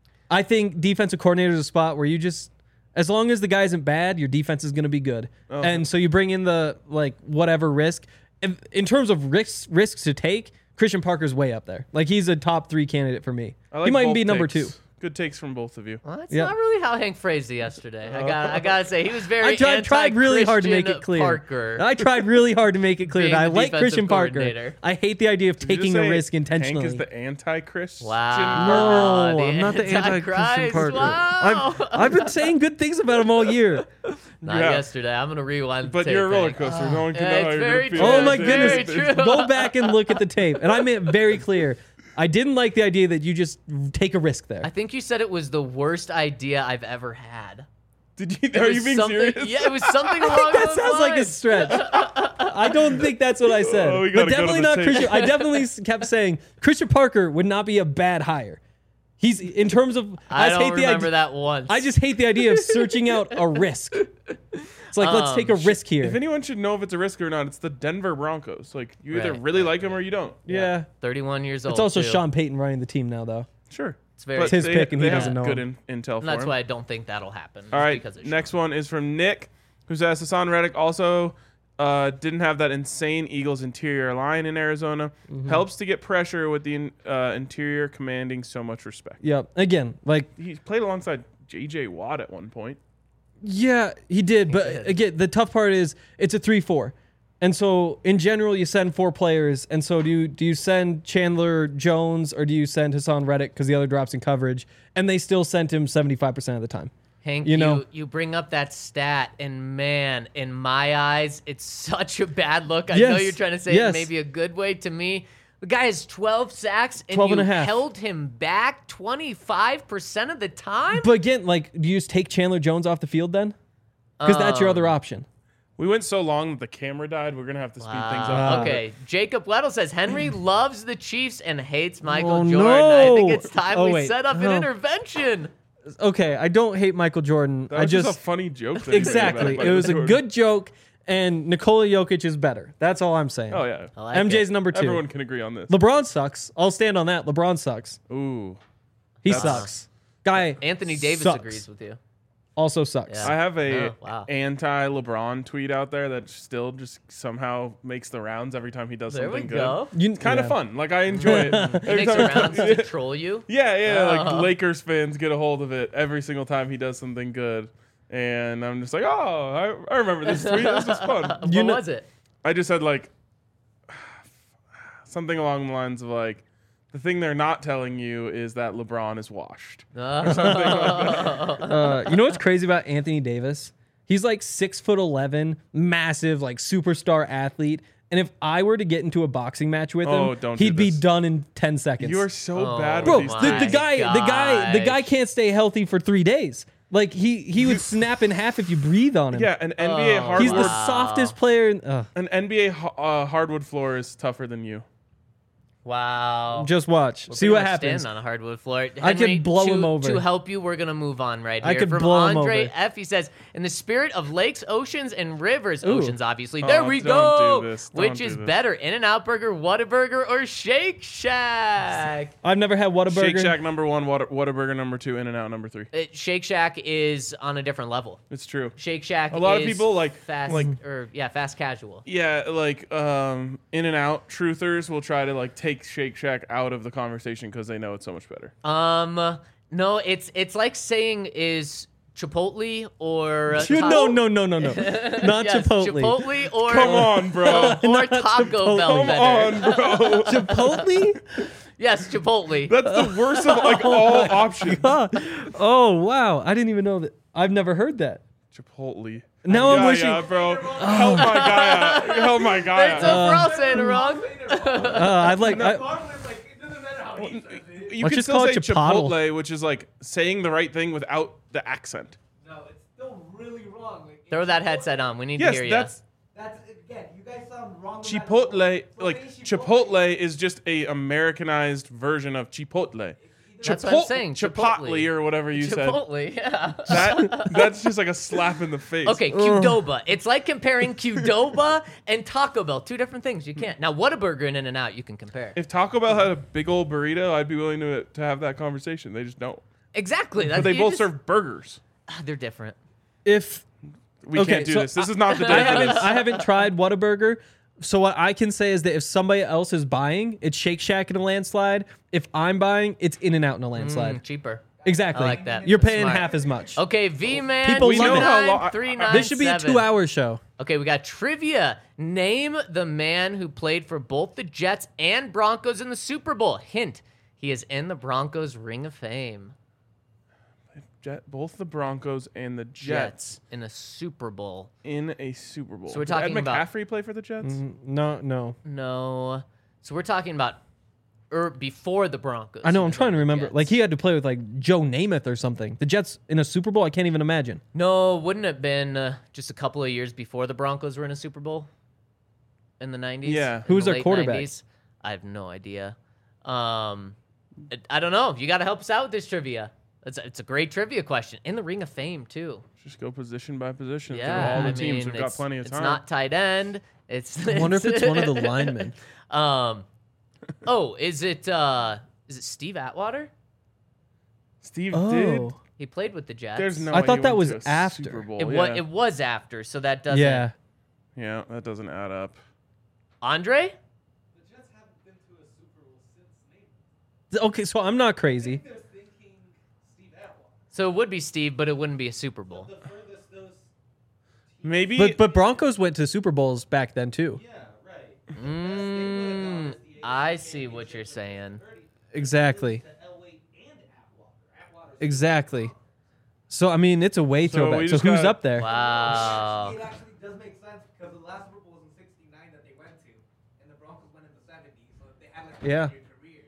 I think defensive coordinator is a spot where you just, as long as the guy isn't bad, your defense is going to be good. And so you bring in the, like, whatever risk. In, in terms of risks risks to take, Christian Parker's way up there. Like, he's a top three candidate for me. I like He might even both be number takes. two. Good takes from both of you. Well, that's Yeah. not really how Hank phrased it yesterday. I got I gotta say he was very. I tried, tried really hard to make it anti-Christian clear. Parker. I tried really hard to make it clear Being that I the like defensive Christian Parker. coordinator. I hate the idea of Did you taking just a say risk intentionally. Hank is the anti-Chris. Wow. No, The I'm not the anti-Christian Antichrist. Parker. Wow. I've, I've been saying good things about him all year. Not Yeah. yesterday. I'm gonna rewind. The But tape, you're a roller Hank. coaster. no one can yeah, know it's how you're very gonna feel. true. Oh my It's goodness. very true. Go back and look at the tape. And I made it very clear. I didn't like the idea that you just take a risk there. I think you said it was the worst idea I've ever had. Did you? It Are was you being something, serious? Yeah, it was something along that those sounds like a lines. stretch. I don't think that's what I said. Oh, we but gotta go to definitely the not tape. Christian. I definitely s- kept saying Christian Parker would not be a bad hire. He's in terms of I just don't hate the remember idea, that once. I just hate the idea of searching out a risk. It's like let's Um, take a risk here. If anyone should know if it's a risk or not, it's the Denver Broncos. Like you either Right, really right, like him or you don't. yeah. thirty-one years old. It's also too. Sean Payton running the team now, though. Sure. It's very. But It's his they- pick and he they have doesn't know good him. in, intel and for that's him. why I don't think that'll happen. All is right. because of Next Sean. one is from Nick, who says Hassan Reddick also uh, didn't have that insane Eagles interior line in Arizona. Mm-hmm. Helps to get pressure with the in- uh, interior commanding so much respect. Yep. Again, like He played alongside J J Watt at one point. yeah, he did. But did. again, the tough part is it's a three four. And so in general you send four players. And so do you do you send Chandler Jones or do you send Hassan Reddick because the other drops in coverage? And they still sent him seventy-five percent of the time. Hank, You you, know- you bring up that stat, and man, in my eyes, it's such a bad look. I know Yes, you're trying to say it yes. maybe a good way. To me, the guy has twelve sacks, and twelve you and a half. held him back twenty-five percent of the time. But again, like, do you just take Chandler Jones off the field then? Because that's your other Um, option. We went so long that the camera died. We're gonna have to speed things Wow. up. Okay, Jacob Weddle says Henry loves the Chiefs and hates Michael Oh, Jordan. I think no. it's time Oh, we wait. set up No. an intervention. Okay, I don't hate Michael Jordan. That I was just just a funny joke. That he made exactly. about It was a Jordan. good joke, and Nikola Jokic is better. That's all I'm saying. Oh yeah. I like M J's it. number two. Everyone can agree on this. LeBron sucks. I'll stand on that. LeBron sucks. Ooh. He That's- sucks. Guy Anthony Davis sucks. agrees with you. Also sucks. Yeah. I have a Oh, wow. anti-LeBron tweet out there that still just somehow makes the rounds every time he does There we something good. go. You, It's kind yeah. of fun. Like I enjoy it. He Every makes time the rounds to troll you. Yeah, yeah. Like Oh. Lakers fans get a hold of it every single time he does something good, and I'm just like, oh, I, I remember this tweet. This was fun. What You know- was it? I just said like something along the lines of like, the thing they're not telling you is that LeBron is washed. Uh, you know what's crazy about Anthony Davis? He's like six foot eleven, massive, like superstar athlete. And if I were to get into a boxing match with him, Oh, don't do he'd be this. done in ten seconds. You are so Oh, bad Bro, with these the, my the things. guy, the guy, the guy gosh. can't stay healthy for three days. Like he, he would snap in half if you breathe on him. Yeah, an N B A Oh. hardwood he's the Wow. softest player. In, uh, an N B A ho- uh, hardwood floor is tougher than you. Wow. just watch, We're see pretty what much happens. standing on a hardwood floor. I could Henry, blow to, him over. To help you, we're gonna move on right here. I could From blow him Andre over. F, he says, "In the spirit of lakes, oceans, and rivers, Ooh. oceans, obviously. Oh, there we don't go. do this. Don't Which do is this. better, In-N-Out Burger, Whataburger, or Shake Shack? I've never had Whataburger. Shake Shack number one, Water, Whataburger number two, In-N-Out number three. It, Shake Shack is on a different level. It's true. Shake Shack. A lot of is people, like- fast like- or yeah, fast casual. Yeah, like um, In-N-Out truthers will try to like take Shake Shack out of the conversation because they know it's so much better. Um, no, it's it's like saying is Chipotle or uh, You- Ta- no, no, no, no, no, not yes, Chipotle. Chipotle or Come on, bro. or Taco Chipotle. Bell Come better. on, bro. Chipotle? Yes, Chipotle. That's the worst of like all options. Oh wow, I didn't even know that. I've never heard that. Chipotle. Now I'm yeah, wishing. yeah, bro. Help my guy out. Help my guy It's out. we're all saying it wrong. Uh, I'd like. I, You Let's can just still call say it Chipotle. Chipotle, which is like saying the right thing without the accent. Throw that headset on. We need Yes, to hear you. that's That's again, you guys sound wrong. no matter Chipotle, what. So like say Chipotle is just a Americanized version of Chipotle. That's what I'm saying, Chipotle Chipotle. or whatever you said. Chipotle, yeah. That that's just like a slap in the face. Okay, Qdoba. It's like comparing Qdoba and Taco Bell. Two different things. You can't. Now, Whataburger and In-N-Out, you can compare. If Taco Bell had a big old burrito, I'd be willing to to have that conversation. They just don't. Exactly. That's, But they you both just- serve burgers. They're different. If We Okay, can't do so this. This is not the I day for haven't, this. I haven't tried Whataburger. So what I can say is that if somebody else is buying, it's Shake Shack in a landslide. If I'm buying, it's In-N-Out in a landslide. Mm, cheaper. Exactly. I like that. You're paying Smart. half as much. Okay, V-Man. People We know how long- three nine This should be a seven. two-hour show. Okay, we got trivia. Name the man who played for both the Jets and Broncos in the Super Bowl. Hint, he is in the Broncos Ring of Fame. Jet, both the Broncos and the Jets in a Super Bowl. in a Super Bowl. So we're Did talking Ed about- McCaffrey play for the Jets? No, no. No. So we're talking about er, before the Broncos. I know. I'm even trying to the remember. Jets. Like he had to play with like Joe Namath or something. The Jets in a Super Bowl. I can't even imagine. No, wouldn't it have been uh, just a couple of years before the Broncos were in a Super Bowl in the nineties? Yeah. In Who was the their late quarterback? nineties? I have no idea. Um, I, I don't know. You got to help us out with this trivia. It's a, it's a great trivia question. In the Ring of Fame, too. Just go position by position Yeah. through all the I teams. mean, We've got it's- plenty of It's time. not tight end. It's. I wonder if it's one of the linemen. Um, oh, is it uh, is it Steve Atwater? Steve Oh, did. He played with the Jets. There's no I way thought he that went was to a after. Super Bowl. It yeah. was. It was after, so that doesn't. yeah. yeah, that doesn't add up. Andre. The Jets haven't been to a Super Bowl since Nate. Okay, so I'm not crazy. They're thinking Steve Atwater. So it would be Steve, but it wouldn't be a Super Bowl. The furthest those. Maybe. But but Broncos went to Super Bowls back then too. Yeah, right. Mm, I see what you're saying. Exactly. To Elway and Atwater. Atwater's Exactly. So I mean, it's a way So throwback. we So just who's got- up there? Wow. It actually does make sense because the last Super Bowl was in sixty-nine that they went to, and the Broncos went in the seventies, so they had like a Yeah. year career.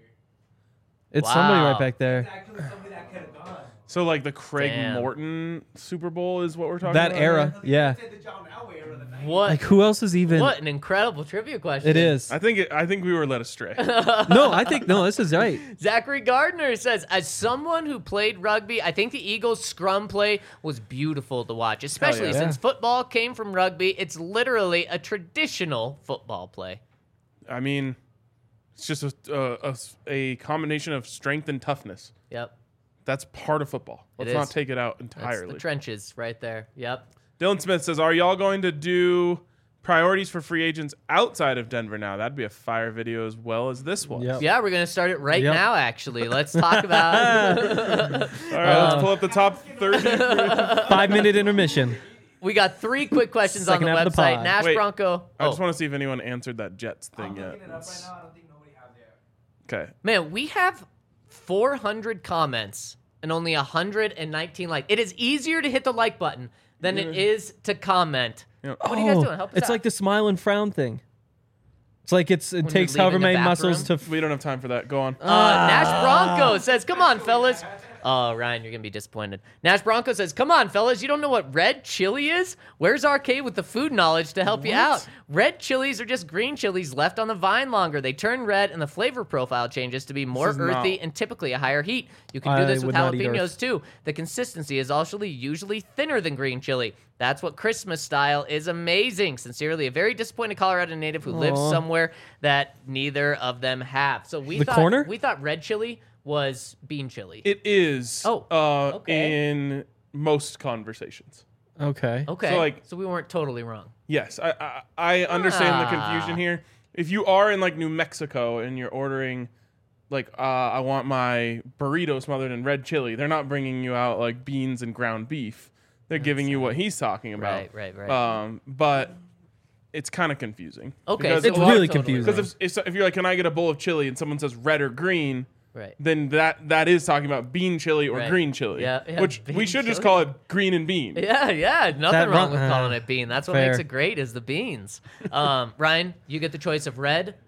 It's somebody Wow. right back there. It's actually somebody that could have gone. so like the Craig Damn. Morton Super Bowl is what we're talking That about. era, here? yeah. Say the John Elway era of the nineties. What? Like who else is even? What an incredible trivia question. It is. I think it, I think we were led astray. No, I think no. This is right. Zachary Gardner says, as someone who played rugby, I think the Eagles' scrum play was beautiful to watch, especially yeah. since Yeah. football came from rugby. It's literally a traditional football play. I mean, it's just a, a, a, a combination of strength and toughness. Yep. That's part of football. It Let's is. not take it out That's entirely. the trenches right there. Yep. Dylan Smith says, "Are y'all going to do priorities for free agents outside of Denver now? That'd be a fire video as well as this one." Yep. Yeah, we're going to start it right Yep. now, actually. Let's talk about All right, let's pull up the top thirty. Five minute intermission. We got three quick questions on the Second half of the website. pod. Nash Wait, Bronco. I just Oh, want to see if anyone answered that Jets thing I'm yet. looking it up right now. I don't think nobody has yet. Okay. man, we have four hundred comments and only one hundred nineteen likes. It is easier to hit the like button than it is to comment. Yeah. What are you guys Oh, doing? Help us It's out. like the smile and frown thing. It's like it's it When takes you're however leaving the many muscles to. bathroom? We don't have time for that. Go on. Uh, Nash Bronco says, "Come on, fellas." Oh, Ryan, you're gonna be disappointed. Nash Bronco says, "Come on, fellas. You don't know what red chili is? Where's R K with the food knowledge to help you out? Red chilies are just green chilies left on the vine longer. They turn red, and the flavor profile changes to be more is earthy not- and typically a higher heat. You can do I this with would not eat jalapenos earth. too. The consistency is actually usually thinner than green chili. That's what Christmas style is amazing. Sincerely, a very disappointed Colorado native who lives Aw. somewhere that neither of them have." So we The thought corner? we thought red chili was bean chili. It is. Oh, Uh, okay. In most conversations. Okay. Okay. So, like- so we weren't totally wrong. Yes, I I, I understand the Ah. confusion here. If you are in like New Mexico and you're ordering, like, uh, I want my burrito smothered in red chili, they're not bringing you out like beans and ground beef. They're giving you what he's talking about. Right, right, right. Um, but it's kind of confusing. Okay, Because so a It's lot- really totally confusing. Because if, if if you're like, can I get a bowl of chili, and someone says red or green, Right. then that that is talking about bean chili or Right. green chili. Yeah, yeah, which we bean should just chili. call it green and bean. Yeah, yeah. Nothing That wrong ru- with uh, calling it bean. That's what fair. makes it great is the beans. Um, Ryan, you get the choice of red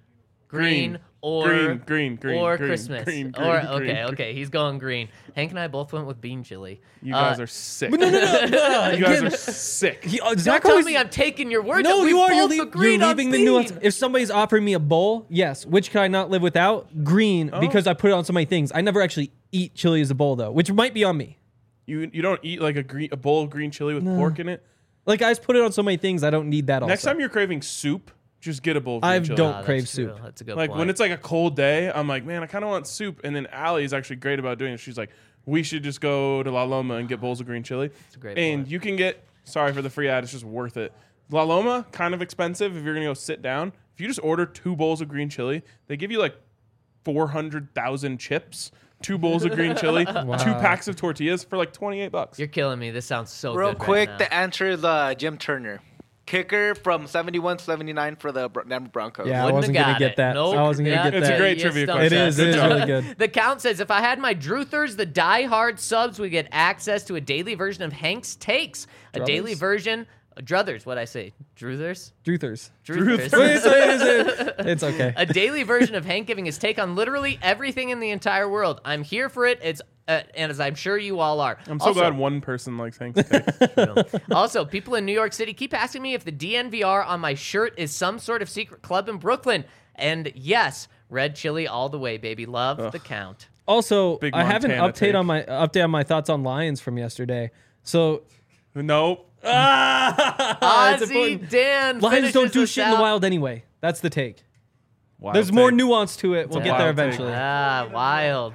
green, Green. or Green, green, green, or green, Christmas. green, green, or green, okay, green. okay, he's going green. Hank and I both went with bean chili. You Uh, guys are sick. No, no, no. no. You guys Again, are sick. he- uh, Don't Zach tell always- me I'm taking your word. No, that we you are. both You're, leave, agreed you're on leaving the bean. nuance. If somebody's offering me a bowl, yes. Which can I not live without? Green, Oh. because I put it on so many things. I never actually eat chili as a bowl though, which might be on me. You you don't eat like a green a bowl of green chili with pork in it. Like I just put it on so many things. I don't need that. Next also. time you're craving soup, just get a bowl of green I chili. don't Ah, that's crave true. soup. That's a good Like point. when it's like a cold day, I'm like, man, I kind of want soup. And then Allie is actually great about doing it. She's like, we should just go to La Loma and get bowls of green chili. a great and point. you can get, sorry for the free ad, it's just worth it. La Loma, kind of expensive if you're gonna go sit down. If you just order two bowls of green chili, they give you like four hundred thousand chips, two bowls of green chili, two packs of tortillas for like twenty-eight bucks. You're killing me. This sounds so Real good quick, right the now. answer is uh, Jim Turner. Kicker from seventy-one seventy-nine for the Bro- Denver Broncos. Yeah, I Wouldn't wasn't have gonna got get it. that. Nope. I wasn't gonna Yeah, get It's a that. great you trivia stumped question. It us. is. It is Good job. really good. The Count says, if I had my Druthers, the die-hard subs, we get access to a daily version of Hank's Takes. A daily Druthers? version. Uh, Druthers, what'd I say? Druthers? Druthers. Druthers. Wait, it's, it's, it's okay. A daily version of Hank giving his take on literally everything in the entire world. I'm here for it. It's uh, and as I'm sure you all are. I'm so Also- glad one person likes Hank's Take. Also, people in New York City keep asking me if the D N V R on my shirt is some sort of secret club in Brooklyn. And yes, red chili all the way, baby. Love the Count. Also, Big I have an Montana update take. on my update on my thoughts on Lions from yesterday. So Nope. ah, it's Ozzy important. Dan Lions don't finishes do us shit in the out. wild anyway. That's the take. Wild There's more take. nuance to it. We'll It's a get there wild take. eventually. Ah, wild.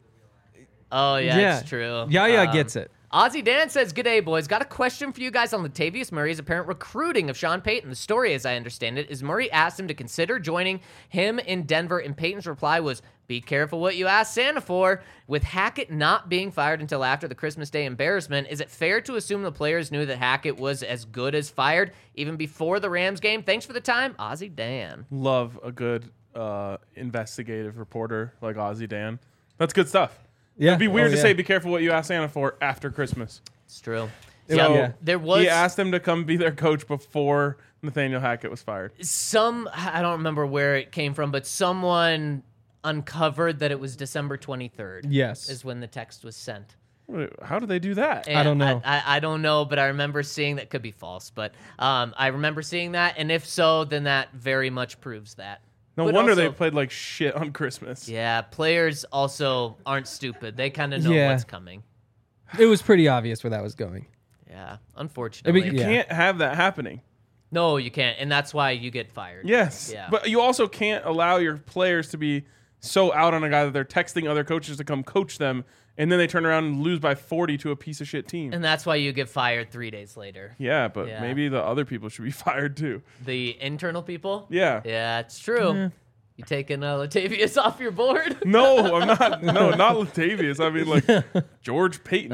Oh, yeah, Yeah. it's true. Yaya Um, gets it. Ozzy Dan says, "Good day, boys. Got a question for you guys on Latavius Murray's apparent recruiting of Sean Payton. The story, as I understand it, is Murray asked him to consider joining him in Denver, and Payton's reply was, 'Be careful what you ask Santa for.' With Hackett not being fired until after the Christmas Day embarrassment, is it fair to assume the players knew that Hackett was as good as fired even before the Rams game? Thanks for the time, Ozzy Dan." Love a good uh, investigative reporter like Ozzy Dan. That's good stuff. Yeah. It'd be weird Oh, to yeah. say be careful what you ask Santa for after Christmas. It's true. It- Yeah, yeah. there was He asked him to come be their coach before Nathaniel Hackett was fired. some, I don't remember where it came from, but someone uncovered that it was December twenty-third. Yes. Is when the text was sent. Wait, how do they do that? And don't know. I, I, I don't know, but I remember seeing that. Could be false, but um, I remember seeing that, and if so, then that very much proves that. No But wonder they also- played like shit on Christmas. Yeah, players also aren't stupid. They kind of know Yeah. what's coming. It was pretty obvious where that was going. Yeah, unfortunately. You Yeah. can't have that happening. No, you can't, and that's why you get fired. Yes. Yeah. But you also can't allow your players to be so out on a guy that they're texting other coaches to come coach them, and then they turn around and lose by forty to a piece of shit team. And that's why you get fired three days later. yeah, but Yeah. maybe the other people should be fired too. The internal people? Yeah. Yeah, it's true. You taking uh, Latavius off your board? No, I'm not. No, not Latavius. I mean, like George Payton.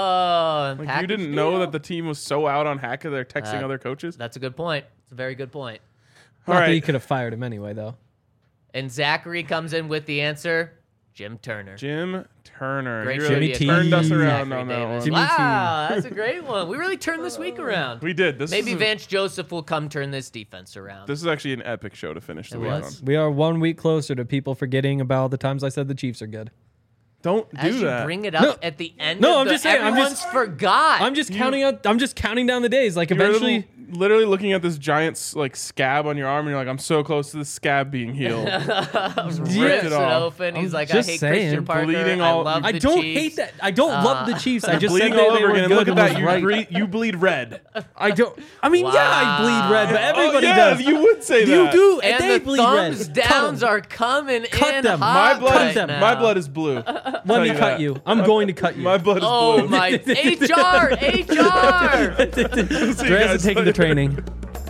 Oh, like you package didn't know deal? that the team was so out on Hackett they're texting Uh, other coaches. That's a good point. It's a very good point. All Not that he right, could have fired him anyway, though. And Zachary comes in with the answer: Jim Turner. Jim Turner. Great You really trivia. T. turned us Zachary around on that Davis. one. Jimmy Wow, that's a great one. We really turned this week around. We did. This Maybe is a- Vance Joseph will come turn this defense around. This is actually an epic show to finish the It week was. on. We are one week closer to people forgetting about the times I said the Chiefs are good. Don't do As you that. bring it up No. at the end No, of I'm the, just saying, I'm everyone's just- forgot. I'm just counting out. I'm just counting down the days. Like You're eventually, little- literally looking at this giant s- like scab on your arm, and you're like, "I'm so close to the scab being healed." Just ripped rips it it off. open. He's I'm like, I just hate saying. Christian Parker. Bleeding I all- love I the don't Chiefs. hate that. I don't love the Chiefs. I just Bleeding said they, all they over were again. good Look at and that. was You, right. bre- you bleed red. I don't. I mean, yeah, I bleed red, but everybody oh, yeah, does. You would say You that. do, And they the bleed thumbs red. downs Cut 'em. are coming Cut in them. hot My blood. right is, them. now. My blood is blue. Let Tell me you cut that. you. I'm going to cut you. My blood is Oh blue. my H R, H R. See you Dre's guys is taking the later. training.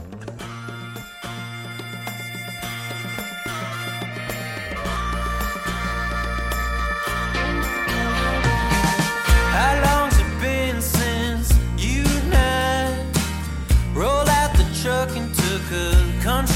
How long's it been since you and I rolled out the truck and took a country